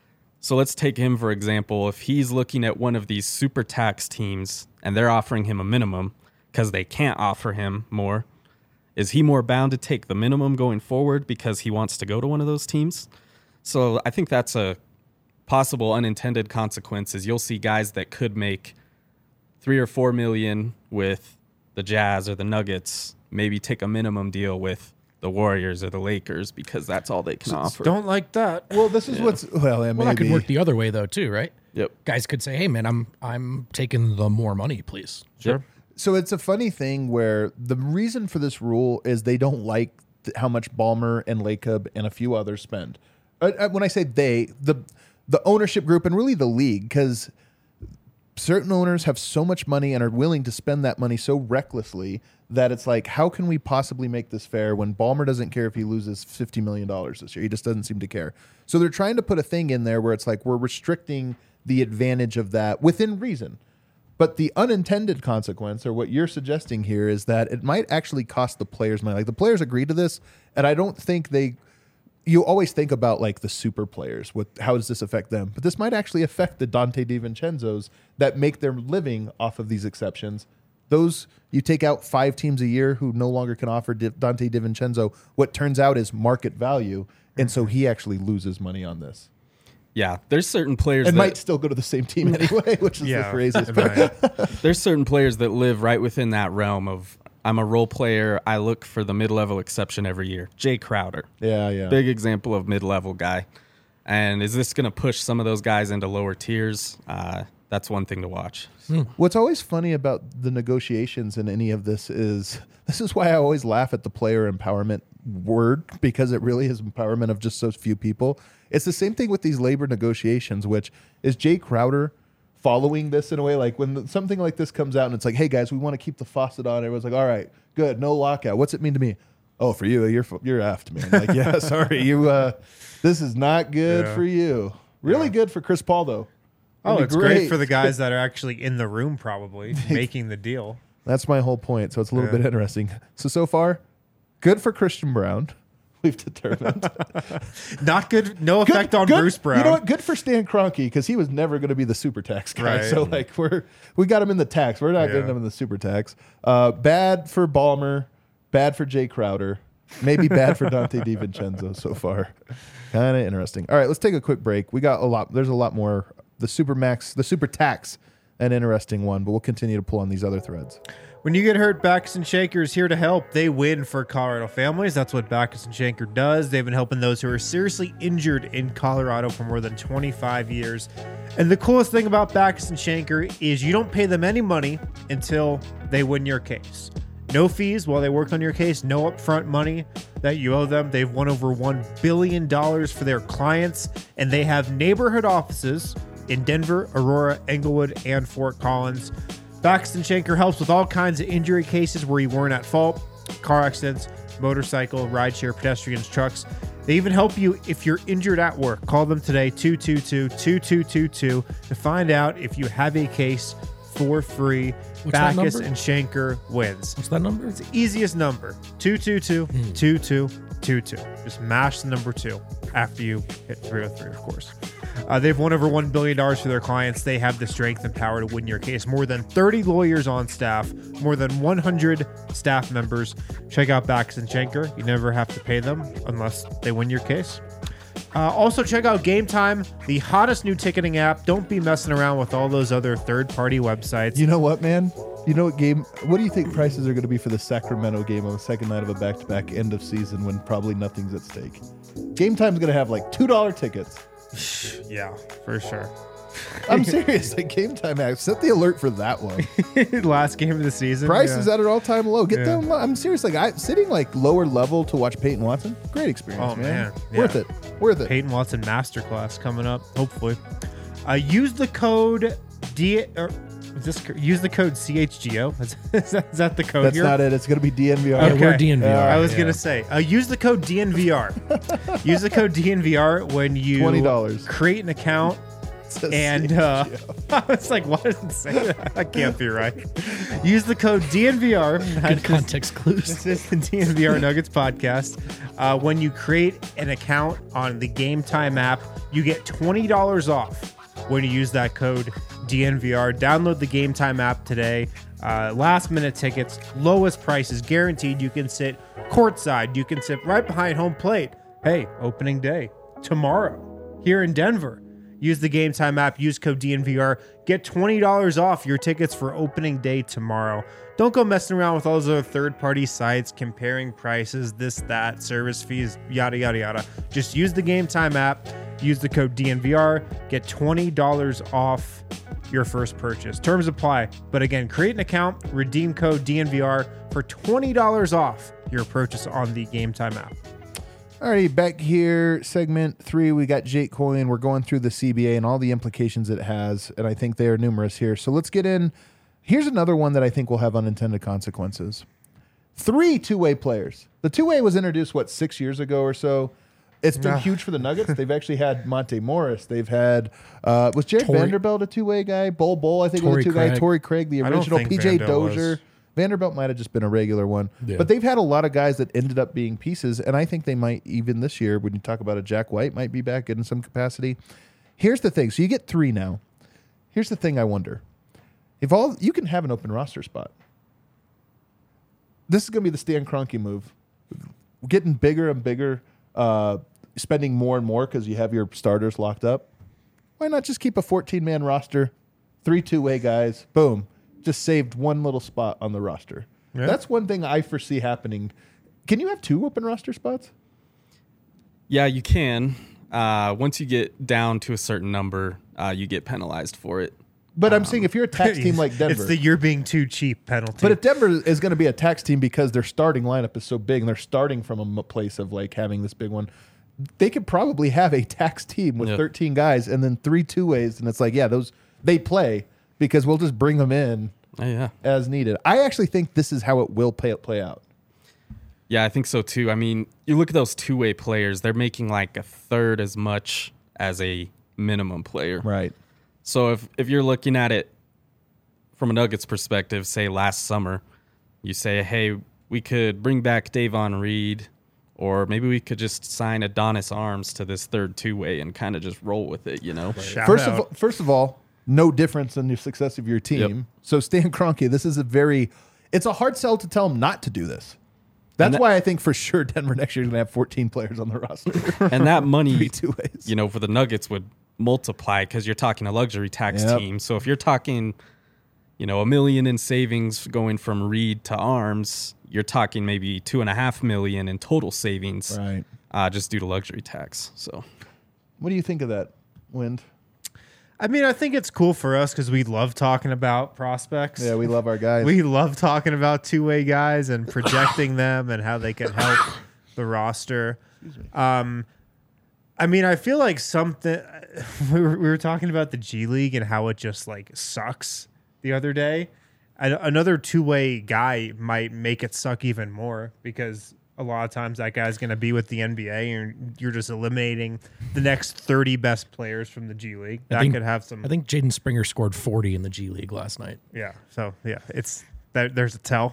So let's take him for example. If he's looking at one of these super tax teams and they're offering him a minimum because they can't offer him more, is he more bound to take the minimum going forward because he wants to go to one of those teams? So I think that's a possible unintended consequence. Is you'll see guys that could make three or four million with the Jazz or the Nuggets, maybe take a minimum deal with the Warriors or the Lakers because that's all they can offer. Don't like that. Well, this is what's well, yeah, Well, that could maybe. work the other way though, too, right? Yep. Guys could say, "Hey, man, I'm I'm taking the more money, please." Sure. So it's a funny thing where the reason for this rule is they don't like th- how much Ballmer and Lacob and a few others spend. Uh, uh, when I say they, the the ownership group and really the league, because certain owners have so much money and are willing to spend that money so recklessly that it's like, how can we possibly make this fair when Ballmer doesn't care if he loses fifty million dollars this year? He just doesn't seem to care. So they're trying to put a thing in there where it's like we're restricting the advantage of that within reason. But the unintended consequence, or what you're suggesting here, is that it might actually cost the players money. Like the players agreed to this, and I don't think they. You always think about like the super players. What? How does this affect them? But this might actually affect the Dante DiVincenzo's that make their living off of these exceptions. Those you take out five teams a year who no longer can offer Di- Dante DiVincenzo. What turns out is market value, and so he actually loses money on this. Yeah, there's certain players And that might still go to the same team anyway, which is Yeah. the craziest. Right. there's certain players that live right within that realm of I'm a role player. I look for the mid-level exception every year. Jay Crowder, Yeah, yeah. big example of mid-level guy. And is this going to push some of those guys into lower tiers? Uh, that's one thing to watch. What's always funny about the negotiations in any of this is this is why I always laugh at the player empowerment word, because it really is empowerment of just so few people. It's the same thing with these labor negotiations, which is Jay Crowder following this in a way like when the, something like this comes out and it's like, hey guys, we want to keep the faucet on. Everyone's like, all right, good, no lockout. What's it mean to me? Oh, for you, you're you're effed, man. Like, yeah, sorry, you. Uh, this is not good Yeah. for you. Really good for Chris Paul though. Oh, It'd be it's great. for the guys that are actually in the room, probably making the deal. That's my whole point. So it's a little Yeah. bit interesting. So so far, good for Christian Brown. We've determined. Not good. No effect on good, Bruce Brown. You know what? Good for Stan Kroenke because he was never going to be the super tax guy. Right. So like we're we got him in the tax. We're not Yeah. getting him in the super tax. Uh, bad for Ballmer. Bad for Jay Crowder. Maybe bad for Dante DiVincenzo so far. Kind of interesting. All right, let's take a quick break. We got a lot. There's a lot more. The super max, the super tax, an interesting one, but we'll continue to pull on these other threads. When you get hurt, Backus and Shaker is here to help. They win for Colorado families. That's what Backus and Shaker does. They've been helping those who are seriously injured in Colorado for more than twenty-five years. And the coolest thing about Backus and Shaker is you don't pay them any money until they win your case. No fees while they work on your case, no upfront money that you owe them. They've won over one billion dollars for their clients, and they have neighborhood offices in Denver, Aurora, Englewood, and Fort Collins. Backus and Shaker helps with all kinds of injury cases where you weren't at fault, car accidents, motorcycle, rideshare, pedestrians, trucks. They even help you if you're injured at work. Call them today, two two two, two two two two, to find out if you have a case for free. What's that Backus number? and Shaker wins. What's that number? It's the easiest number, two two two, two two two two. Just mash the number two after you hit three oh three, of course. Uh, they've won over one billion dollars for their clients. They have the strength and power to win your case. More than thirty lawyers on staff, more than one hundred staff members. Check out Backus and Shaker. You never have to pay them unless they win your case. Uh, also, check out Game Time, the hottest new ticketing app. Don't be messing around with all those other third-party websites. You know what, man? You know what game? What do you think prices are going to be for the Sacramento game on the second night of a back-to-back end of season when probably nothing's at stake? Game Time's going to have like two dollar tickets. Yeah, for sure. I'm serious. Like Game Time app. Set the alert for that one. Last game of the season. Price yeah. is at an all-time low. Get Yeah. them. I'm serious. Like I sitting like lower level to watch Peyton Watson. Great experience, Oh, man. man. Yeah. Worth it. Worth it. Peyton Watson Masterclass coming up, hopefully. Uh, use the code D. Or is this co- use the code C H G O? Is, is, that, is that the code That's here? not it. It's going to be D N V R. Yeah, Okay. we're D N V R. Uh, I was yeah. gonna say, uh, use the code D N V R. Use the code D N V R when you twenty dollars. create an account And uh, I was like, why does it say that? That can't be right. Use the code D N V R. Good context clues. This is the D N V R Nuggets podcast. Uh, when you create an account on the Game Time app, you get twenty dollars off when you use that code D N V R. Download the Game Time app today. Uh, last minute tickets, lowest prices guaranteed. You can sit courtside. You can sit right behind home plate. Hey, opening day tomorrow here in Denver. Use the Game Time app. Use code D N V R. Get twenty dollars off your tickets for opening day tomorrow. Don't go messing around with all those other third-party sites, comparing prices, this, that, service fees, yada, yada, yada. Just use the Game Time app. Use the code D N V R. Get twenty dollars off your first purchase. Terms apply. But again, create an account, redeem code D N V R for twenty dollars off your purchase on the Game Time app. Alrighty, back here, segment three, we got Jake Coyne. We're going through the C B A and all the implications it has, and I think they are numerous here. So let's get in. Here's another one that I think will have unintended consequences. Three two-way players. The two-way was introduced, what, six years ago or so? It's been Ah. huge for the Nuggets. They've actually had Monte Morris. They've had, uh, was Jared Torrey- Vanderbilt a two-way guy? Bull Bull, I think, was Torrey a two-guy. Craig. Torrey Craig, the I don't original. think P J Vandal Dozier. was. Vanderbilt might have just been a regular one. Yeah. But they've had a lot of guys that ended up being pieces, and I think they might, even this year, when you talk about a Jack White, might be back in some capacity. Here's the thing. So you get three now. Here's the thing I wonder. If all you can have an open roster spot. This is going to be the Stan Kroenke move. Getting bigger and bigger, uh, spending more and more because you have your starters locked up. Why not just keep a fourteen-man roster, three two-way guys, boom. Just saved one little spot on the roster. Yeah. That's one thing I foresee happening. Can you have two open roster spots? Yeah, you can. Uh, once you get down to a certain number, uh, you get penalized for it. But I'm saying if you're a tax team like Denver. It's the you're being too cheap penalty. But if Denver is going to be a tax team because their starting lineup is so big and they're starting from a m- place of like having this big one, they could probably have a tax team with Yeah. thirteen guys and then three two ways. And it's like, yeah, those they play because we'll just bring them in Oh, yeah. as needed. I actually think this is how it will play, play out. Yeah, I think so too. I mean, you look at those two-way players, they're making like a third as much as a minimum player. Right. So if, if you're looking at it from a Nuggets perspective, say last summer, you say, hey, we could bring back Davon Reed, or maybe we could just sign Adonis Arms to this third two-way and kind of just roll with it, you know? Shout First out. of all, first of all, no difference in the success of your team. Yep. So Stan Kroenke, this is a very, it's a hard sell to tell him not to do this. That's that- why I think for sure Denver next year is going to have fourteen players on the roster. And that money, Three two ways. you know, for the Nuggets would multiply because you're talking a luxury tax Yep. team. So if you're talking, you know, a million in savings going from Reed to Arms, you're talking maybe two and a half million in total savings, Right. uh, just due to luxury tax. So What do you think of that, Wind? I mean, I think it's cool for us because we love talking about prospects. Yeah, we love our guys. We love talking about two-way guys and projecting them and how they can help the roster. Um, I mean, I feel like something we were, we were talking about the G League and how it just like sucks the other day. And another two-way guy might make it suck even more because a lot of times that guy's going to be with the N B A and you're just eliminating the next thirty best players from the G League. I That think- could have some. I think Jaden Springer scored forty in the G League last night. Yeah. So yeah, it's there, there's a tell.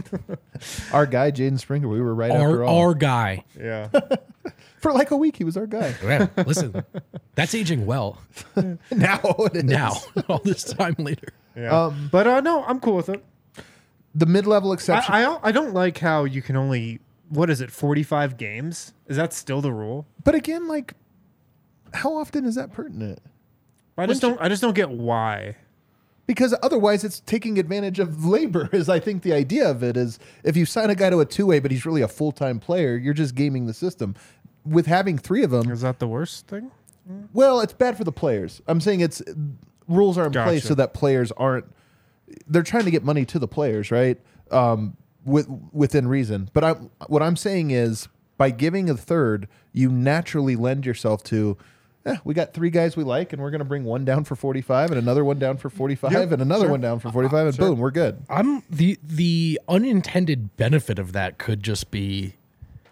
our guy, Jaden Springer, we were right Our, after all. our guy. Yeah. For like a week, he was our guy. Yeah, listen, that's aging well Now it is. now, all this time later. Yeah. Um, but uh, no, I'm cool with it. The mid-level exception. I, I don't- I don't like how you can only what is it forty-five games? Is that still the rule? but again, like, how often is that pertinent? I just don't. I just don't get why. Because otherwise, it's taking advantage of labor. Is I think the idea of it is if you sign a guy to a two-way, but he's really a full-time player, you're just gaming the system. With having three of them, Is that the worst thing? well, it's bad for the players. I'm saying it's rules are in place Gotcha. so that players aren't. They're trying to get money to the players, right? Um, with within reason. But I, what I'm saying is, by giving a third, you naturally lend yourself to. Eh, we got three guys we like, and we're going to bring one down for forty-five, and another one down for forty-five, Yep, and another sure. one down for forty-five, and Sure. boom, we're good. I'm the the unintended benefit of that could just be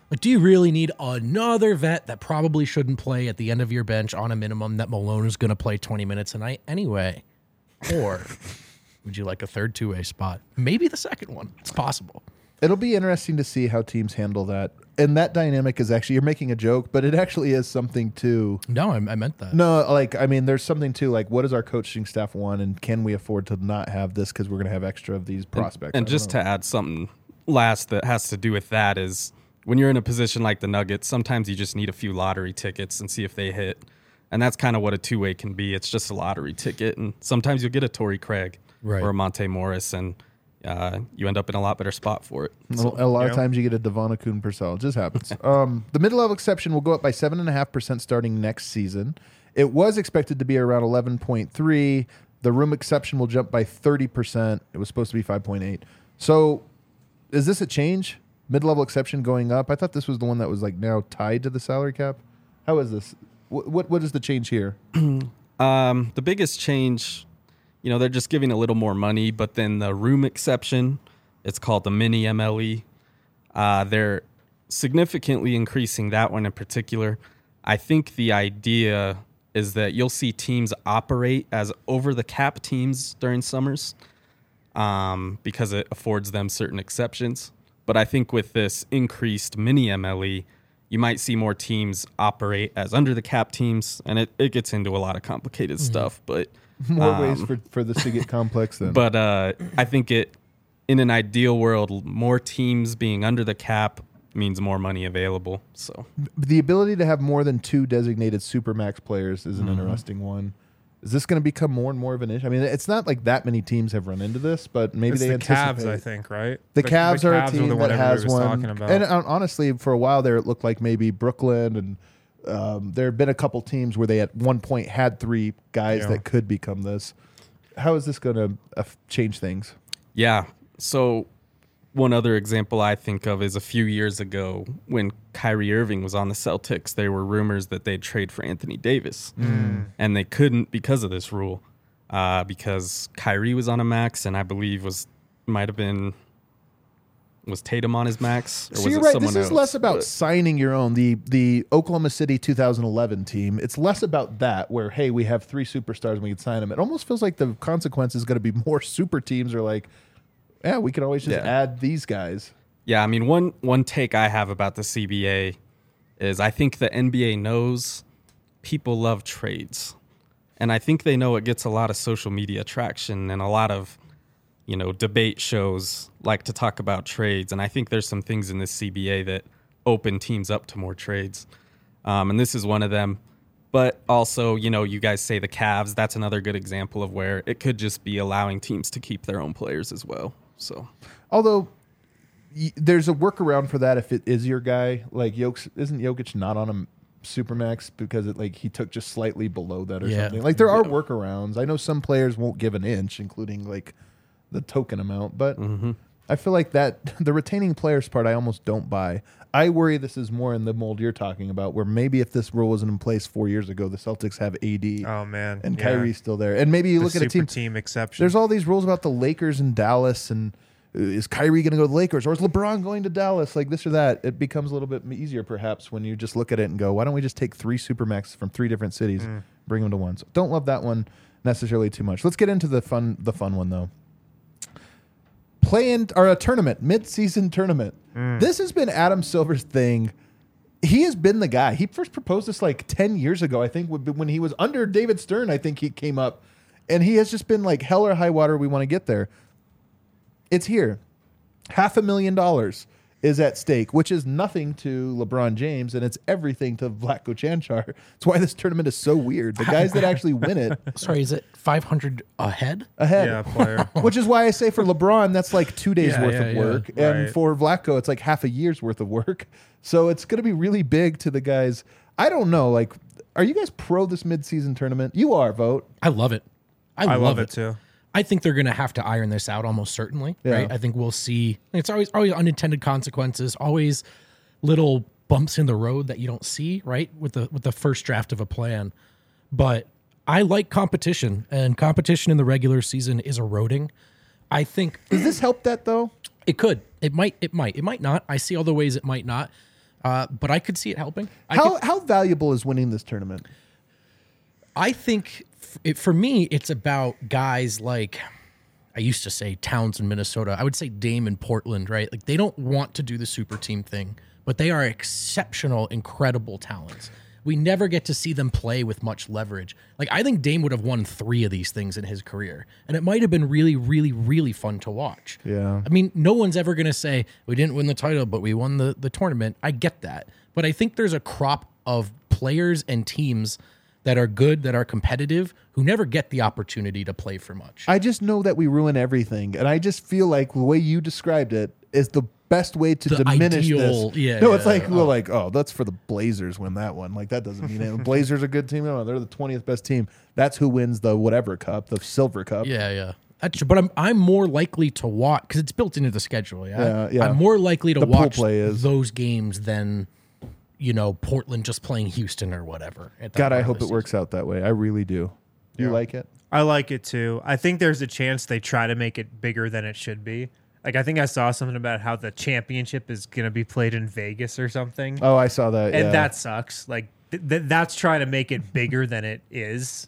Like, do you really need another vet that probably shouldn't play at the end of your bench on a minimum that Malone is going to play twenty minutes a night anyway? Or would you like a third two-way spot? Maybe the second one. It's possible. It'll be interesting to see how teams handle that. And that dynamic is actually, you're making a joke, but it actually is something to. No, I, I meant that. No, like, I mean, there's something to, like, what does our coaching staff want, and can we afford to not have this because we're going to have extra of these prospects? And, and just to add something last that has to do with that is when you're in a position like the Nuggets, sometimes you just need a few lottery tickets and see if they hit. And that's kind of what a two-way can be. It's just a lottery ticket. And sometimes you'll get a Torrey Craig Right. or a Monte Morris, and uh, you end up in a lot better spot for it. A, a lot yeah. of times you get a Devon Akun Purcell. It just happens. um, the mid-level exception will go up by seven point five percent starting next season. It was expected to be around eleven point three. The room exception will jump by thirty percent. It was supposed to be five point eight. So is this a change? Mid-level exception going up? I thought this was the one that was like now tied to the salary cap. How is this? What What, what is the change here? Um, the biggest change, you know, they're just giving a little more money, but then the room exception, it's called the mini M L E. Uh, they're significantly increasing that one in particular. I think the idea is that you'll see teams operate as over-the-cap teams during summers um, because it affords them certain exceptions. But I think with this increased mini M L E, you might see more teams operate as under-the-cap teams, and it, it gets into a lot of complicated mm-hmm. stuff. But More um, ways for, for this to get complex then. But uh, I think it, in an ideal world, more teams being under the cap means more money available. So the ability to have more than two designated Supermax players is an mm-hmm. interesting one. Is this going to become more and more of an issue? I mean, it's not like that many teams have run into this, but maybe it's they the anticipate. Cavs, I think, right? The, the Cavs the are Cavs a team the that has was one. talking about. And uh, honestly, for a while there, it looked like maybe Brooklyn and um, there have been a couple teams where they at one point had three guys Yeah. that could become this. How is this going to uh, change things? Yeah. So one other example I think of is a few years ago when Kyrie Irving was on the Celtics, there were rumors that they'd trade for Anthony Davis. Mm. And they couldn't because of this rule. Uh, because Kyrie was on a max, and I believe was might have been was Tatum on his max, or So was you're it right. someone This is else? less about But- signing your own. The the Oklahoma City two thousand eleven team. It's less about that, where hey, we have three superstars and we can sign them. It almost feels like the consequence is going to be more super teams are like, yeah, we can always just Yeah. add these guys. Yeah, I mean, one one take I have about the C B A is I think the N B A knows people love trades. And I think they know it gets a lot of social media traction, and a lot of, you know, debate shows like to talk about trades. And I think there's some things in this C B A that open teams up to more trades. Um, and this is one of them. But also, you know, you guys say the Cavs, that's another good example of where it could just be allowing teams to keep their own players as well. So, Although y- there's a workaround for that if it is your guy. Like Jokic, isn't Jokic not on a Supermax because it like he took just slightly below that or Yeah. something? Like there are workarounds. I know some players won't give an inch, including like the token amount, but mm-hmm. I feel like that the retaining players part I almost don't buy. I worry this is more in the mold you're talking about, where maybe if this rule wasn't in place four years ago, the Celtics have A D Oh man, and yeah. Kyrie's still there, and maybe you The look at a super team. team exception. There's all these rules about the Lakers and Dallas, and uh, is Kyrie going to go to the Lakers, or is LeBron going to Dallas? Like this or that. It becomes a little bit easier, perhaps, when you just look at it and go, "Why don't we just take three Supermax from three different cities, Mm. bring them to one?" So don't love that one necessarily too much. Let's get into the fun, the fun one though. Play in or a tournament, mid-season tournament. Mm. This has been Adam Silver's thing. He has been the guy. He first proposed this like ten years ago, I think, when he was under David Stern. I think he came up, and he has just been like, hell or high water, we want to get there. It's here. Half a million dollars is at stake, which is nothing to LeBron James, and it's everything to Vlatko Čančar. It's why this tournament is so weird. The guys that actually win it Sorry, is it five hundred ahead? ahead. yeah, player. Which is why I say for LeBron, that's like two days Yeah, worth yeah, of yeah. work. And Right. for Vlatko, it's like half a year's worth of work. So it's going to be really big to the guys. I don't know. Like, are you guys pro this midseason tournament? You are, vote. I love it. I, I love, love it. it too. I think they're going to have to iron this out almost certainly, Yeah. right? I think we'll see. It's always always unintended consequences, always little bumps in the road that you don't see, right? With the with the first draft of a plan. But I like competition, and competition in the regular season is eroding. I think Does this help that, though? it could. It might. It might. It might not. I see all the ways it might not. Uh, but I could see it helping. I How could, how valuable is winning this tournament? I think f- it, for me, it's about guys like, I used to say Towns in Minnesota. I would say Dame in Portland, right? Like they don't want to do the super team thing, but they are exceptional, incredible talents. We never get to see them play with much leverage. Like I think Dame would have won three of these things in his career, and it might have been really, really, really fun to watch. Yeah. I mean, no one's ever going to say we didn't win the title, but we won the the tournament. I get that, but I think there's a crop of players and teams that are good, that are competitive, who never get the opportunity to play for much. I just know that we ruin everything, and I just feel like the way you described it is the best way to The diminish ideal- this. yeah, no, it's yeah, like we're oh. like, oh, that's for the Blazers win that one. Like that doesn't mean it. Blazers are a good team. No, they're the twentieth best team. That's who wins the whatever cup, the silver cup. Yeah, yeah. That's, but I'm I'm more likely to watch because it's built into the schedule. Yeah, Yeah, yeah. I'm more likely to The pool watch play is. those games than you know Portland just playing Houston or whatever. at that God, I part of hope the it works out that way. I really do. Do you like it? I like it too. I think there's a chance they try to make it bigger than it should be. Like I think I saw something about how the championship is going to be played in Vegas or something, Oh, I saw that. and yeah. that sucks. Like th- th- that's trying to make it bigger than it is.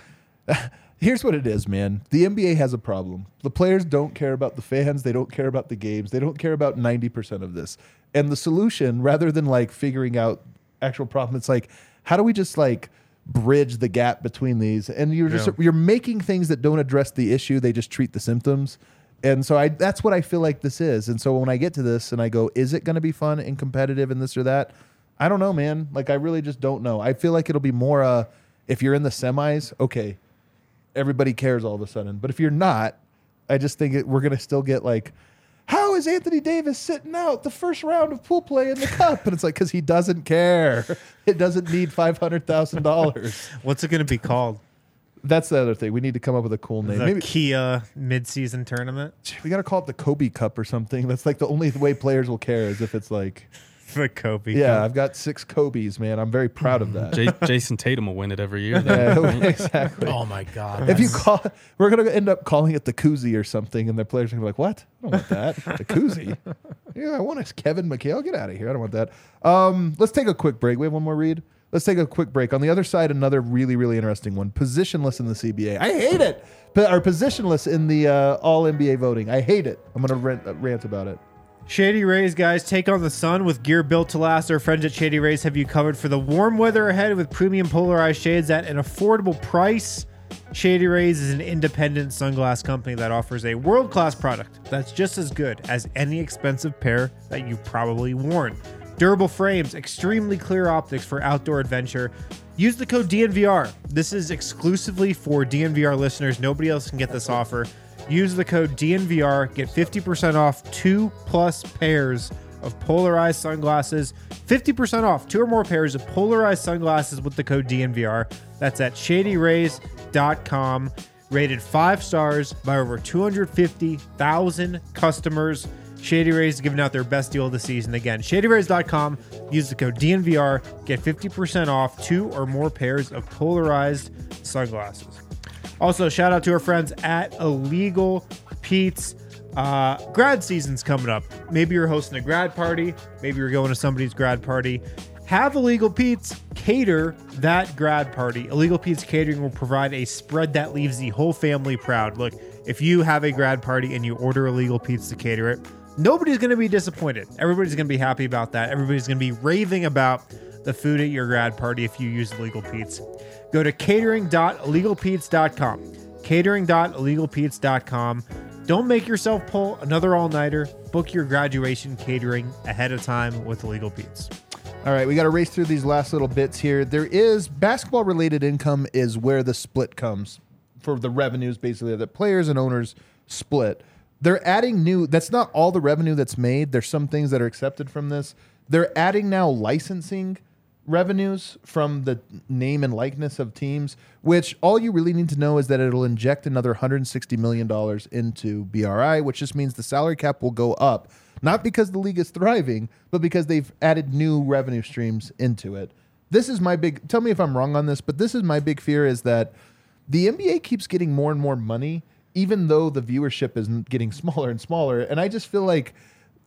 Here's what it is, man. The N B A has a problem. The players don't care about the fans. They don't care about the games. They don't care about ninety percent of this. And the solution, rather than like figuring out actual problem, it's like, how do we just like bridge the gap between these? And you're just Yeah. you're making things that don't address the issue. They just treat the symptoms. And so I that's what I feel like this is. And so when I get to this and I go, is it going to be fun and competitive and this or that? I don't know, man. Like I really just don't know. I feel like it'll be more uh if you're in the semis, okay, everybody cares all of a sudden. But if you're not, I just think it, we're going to still get like, how is Anthony Davis sitting out the first round of pool play in the cup? And it's like, because he doesn't care. It doesn't need five hundred thousand dollars. What's it going to be called? That's the other thing. We need to come up with a cool name. The Maybe Kia midseason tournament. we got to call it the Kobe Cup or something. That's like the only way players will care is if it's like, The Kobe. yeah, Cup. I've got six Kobe's, man. I'm very proud of that. J- Jason Tatum will win it every year. Yeah, Then. exactly. Oh my god! If you that's- call, we're gonna end up calling it the koozie or something, and the players are gonna be like, "What? I don't want that. The koozie? Yeah, I want a Kevin McHale. Get out of here. I don't want that." Um, let's take a quick break. We have one more read. Let's take a quick break. On the other side, another really, really interesting one: positionless in the C B A. I hate it. P- or positionless in the uh, All N B A voting. I hate it. I'm gonna rant, uh, rant about it. Shady Rays, guys, take on the sun with gear built to last. Our friends at Shady Rays have you covered for the warm weather ahead with premium polarized shades at an affordable price. Shady Rays is an independent sunglass company that offers a world-class product that's just as good as any expensive pair that you've probably worn. Durable frames, extremely clear optics for outdoor adventure. Use the code D N V R. This is exclusively for D N V R listeners. Nobody else can get this offer. Use the code D N V R. Get fifty percent off two plus pairs of polarized sunglasses. fifty percent off two or more pairs of polarized sunglasses with the code D N V R. That's at shady rays dot com. Rated five stars by over two hundred fifty thousand customers. Shady Rays is giving out their best deal of the season. Again, shady rays dot com. Use the code D N V R. Get fifty percent off two or more pairs of polarized sunglasses. Also, shout out to our friends at Illegal Pete's. Uh, grad season's coming up. Maybe you're hosting a grad party. Maybe you're going to somebody's grad party. Have Illegal Pete's cater that grad party. Illegal Pete's Catering will provide a spread that leaves the whole family proud. Look, if you have a grad party and you order Illegal Pete's to cater it, nobody's going to be disappointed. Everybody's going to be happy about that. Everybody's going to be raving about the food at your grad party if you use Illegal Pete's. Go to catering dot illegal pete's dot com. catering dot illegal pete's dot com. Don't make yourself pull another all-nighter. Book your graduation catering ahead of time with Illegal Pete's. All right, we got to race through these last little bits here. There is basketball-related income is where the split comes for the revenues, basically, that players and owners split. They're adding new, that's not all the revenue that's made. There's some things that are accepted from this. They're adding now licensing revenues from the name and likeness of teams, which all you really need to know is that it'll inject another one hundred sixty million dollars into B R I, which just means the salary cap will go up, not because the league is thriving, but because they've added new revenue streams into it. This is my big, tell me if I'm wrong on this, but this is my big fear is that the N B A keeps getting more and more money, even though the viewership is getting smaller and smaller. And I just feel like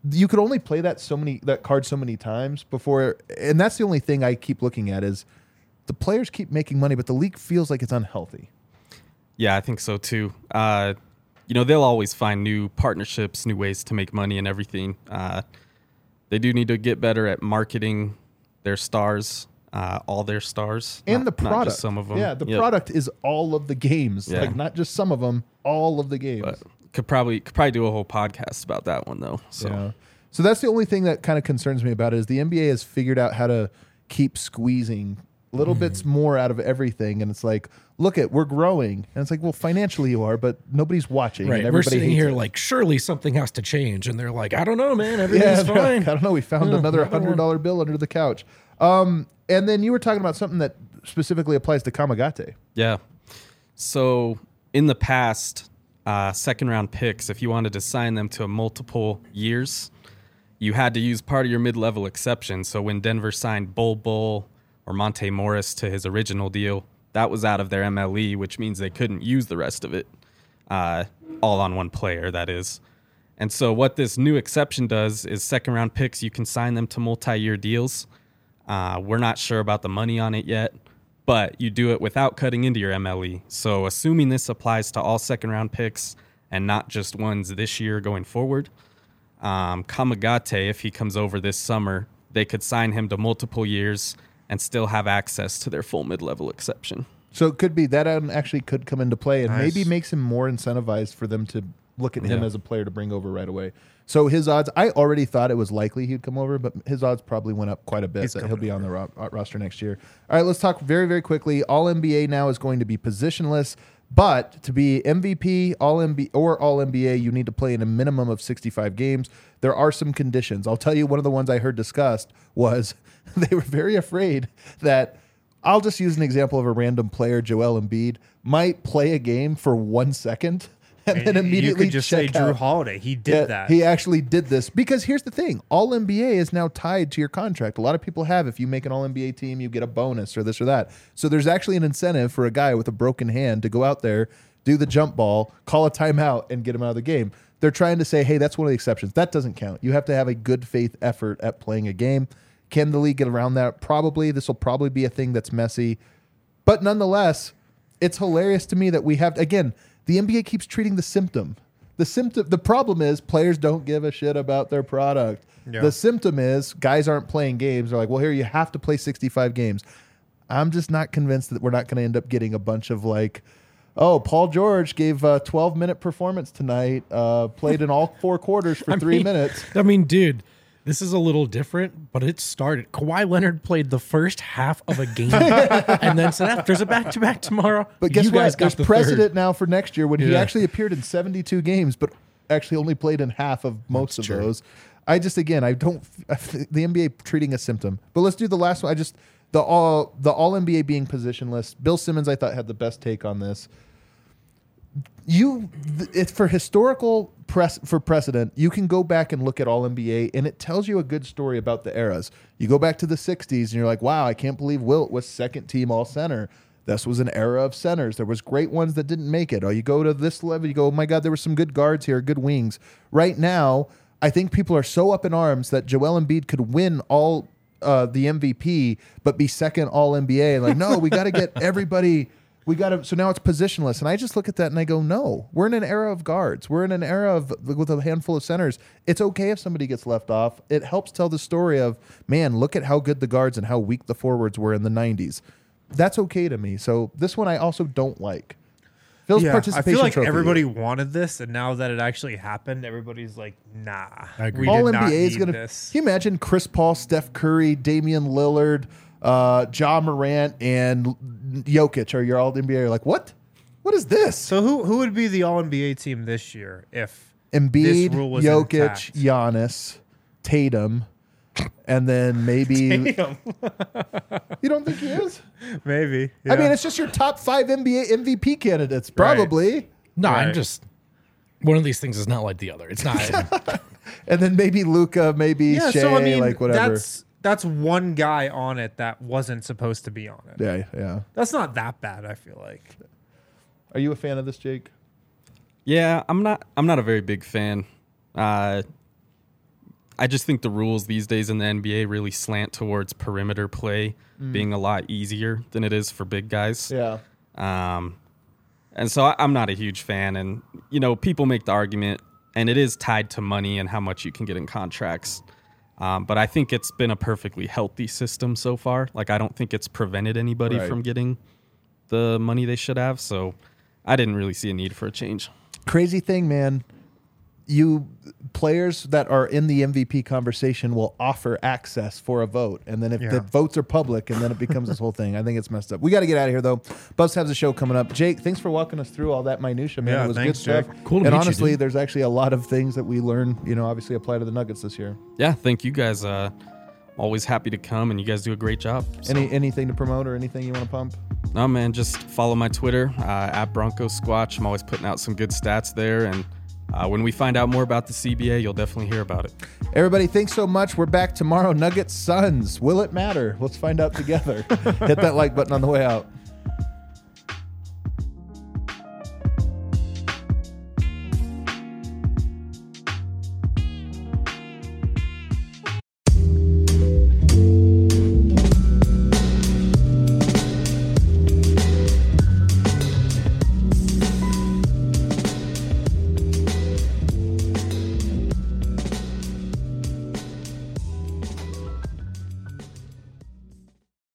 you could only play that so many that card so many times before, and that's the only thing I keep looking at is the players keep making money, but the league feels like it's unhealthy. Yeah, I think so too. Uh, you know, they'll always find new partnerships, new ways to make money and everything. Uh, they do need to get better at marketing their stars, uh, all their stars, And not, the not product. just some of them. Yeah, the Yep. product is all of the games, Yeah. like not just some of them, all of the games. But could probably could probably do a whole podcast about that one though. So Yeah. So that's the only thing that kind of concerns me about it is the N B A has figured out how to keep squeezing little Mm-hmm. bits more out of everything, and it's like, look at we're growing, and it's like, well, financially you are, but nobody's watching, Right. and We're everybody sitting hates here it. like, surely something has to change. And they're like, I don't know, man. Yeah, Everything's they're fine. like, I don't know. We found Yeah, another another hundred dollar bill under the couch. Um, and then you were talking about something that specifically applies to Kamagate. yeah. So in the past, uh, second round picks, if you wanted to sign them to multiple years, you had to use part of your mid level exception. So when Denver signed Bol Bol or Monte Morris to his original deal, that was out of their M L E, which means they couldn't use the rest of it, uh, all on one player, that is. And so what this new exception does is second round picks, you can sign them to multi-year deals. Uh, we're not sure about the money on it yet, but you do it without cutting into your M L E. So assuming this applies to all second round picks and not just ones this year going forward, um, Kamagate, if he comes over this summer, they could sign him to multiple years and still have access to their full mid-level exception. So it could be that actually could come into play, and Nice. maybe makes him more incentivized for them to look at him Yeah. as a player to bring over right away. So his odds, I already thought it was likely he'd come over, but his odds probably went up quite a bit He's that he'll coming be on the ro- uh, roster next year. All right, let's talk very, very quickly. All N B A now is going to be positionless, but to be M V P, All N B A, or All N B A, you need to play in a minimum of sixty-five games. There are some conditions. I'll tell you, one of the ones I heard discussed was they were very afraid that, I'll just use an example of a random player, Joel Embiid, might play a game for one second and then immediately you could just check say Drew out. Holiday. He did Yeah, that. He actually did this because here's the thing: All N B A is now tied to your contract. A lot of people have. If you make an All N B A team, you get a bonus or this or that. So there's actually an incentive for a guy with a broken hand to go out there, do the jump ball, call a timeout, and get him out of the game. They're trying to say, hey, that's one of the exceptions. That doesn't count. You have to have a good faith effort at playing a game. Can the league get around that? Probably. This will probably be a thing that's messy. But nonetheless, it's hilarious to me that we have, again, the N B A keeps treating the symptom. The symptom, the problem is players don't give a shit about their product. Yeah. The symptom is guys aren't playing games. They're like, well, here you have to play sixty-five games. I'm just not convinced that we're not going to end up getting a bunch of like, oh, Paul George gave a twelve minute performance tonight, uh, played in all four quarters for I three mean- minutes. I mean, dude, this is a little different, but it started. Kawhi Leonard played the first half of a game and then said, "Ah, there's a back to back tomorrow. But guess you guys what? got There's the precedent third." now for next year when he Yeah. actually appeared in seventy-two games, but actually only played in half of most That's of true. those. I just, again, I don't, the N B A treating a symptom. But let's do the last one. I just, the all, the all N B A being positionless. Bill Simmons, I thought, had the best take on this. You, th- it's for historical press for precedent. You can go back and look at all N B A, and it tells you a good story about the eras. You go back to the sixties, and you're like, "Wow, I can't believe Wilt was second team all center." This was an era of centers. There was great ones that didn't make it. Oh, you go to this level, you go, "Oh my God, there were some good guards here, good wings." Right now, I think people are so up in arms that Joel Embiid could win all uh, the M V P, but be second all N B A. Like, no, we got to get everybody. We got to. So now it's positionless, and I just look at that and I go, no, we're in an era of guards. We're in an era of with a handful of centers. It's okay if somebody gets left off. It helps tell the story of, man, look at how good the guards and how weak the forwards were in the nineties. That's okay to me. So this one I also don't like. Phil's Yeah, I participation feel like trophy. everybody wanted this, and now that it actually happened, everybody's like, "Nah, I agree. we all did N not B A is need going to. this." Can you imagine Chris Paul, Steph Curry, Damian Lillard, uh, Ja Morant, and Jokic are your all N B A? You're like, what? What is this? So who who would be the All N B A team this year if Embiid, this rule was Jokic, intact? Giannis, Tatum, and then maybe Damn. you don't think he is? Maybe? I yeah. mean, it's just your top five N B A M V P candidates, probably. No, I'm Right. just one of these things is not like the other. It's not. And then maybe Luca, maybe yeah. Shea, So I mean, like whatever. that's that's one guy on it that wasn't supposed to be on it. yeah, yeah. That's not that bad. I feel like. Are you a fan of this, Jake? Yeah, I'm not. I'm not a very big fan. Uh, I just think the rules these days in the N B A really slant towards perimeter play mm. being a lot easier than it is for big guys. Yeah. Um, and so I, I'm not a huge fan. And, you know, people make the argument, and it is tied to money and how much you can get in contracts. Um, but I think it's been a perfectly healthy system so far. Like, I don't think it's prevented anybody right. from getting the money they should have. So I didn't really see a need for a change. Crazy thing, man. You players that are in the M V P conversation will offer access for a vote, and then if Yeah. the votes are public, and then it becomes this whole thing. I think it's messed up. We got to get out of here though. Buzz has a show coming up. Jake, thanks for walking us through all that minutia, man. Yeah, it was thanks, good stuff. Jake. Cool to and meet you, honestly, dude. there's actually a lot of things that we learn. You know, obviously apply to the Nuggets this year. Yeah, thank you guys. Uh, always happy to come, and you guys do a great job. So. Any anything to promote or anything you want to pump? No, man, just follow my Twitter, uh, at Bronco Squatch. I'm always putting out some good stats there, and uh, when we find out more about the C B A, you'll definitely hear about it. Everybody, thanks so much. We're back tomorrow. Nuggets Suns. Will it matter? Let's find out together. Hit that like button on the way out.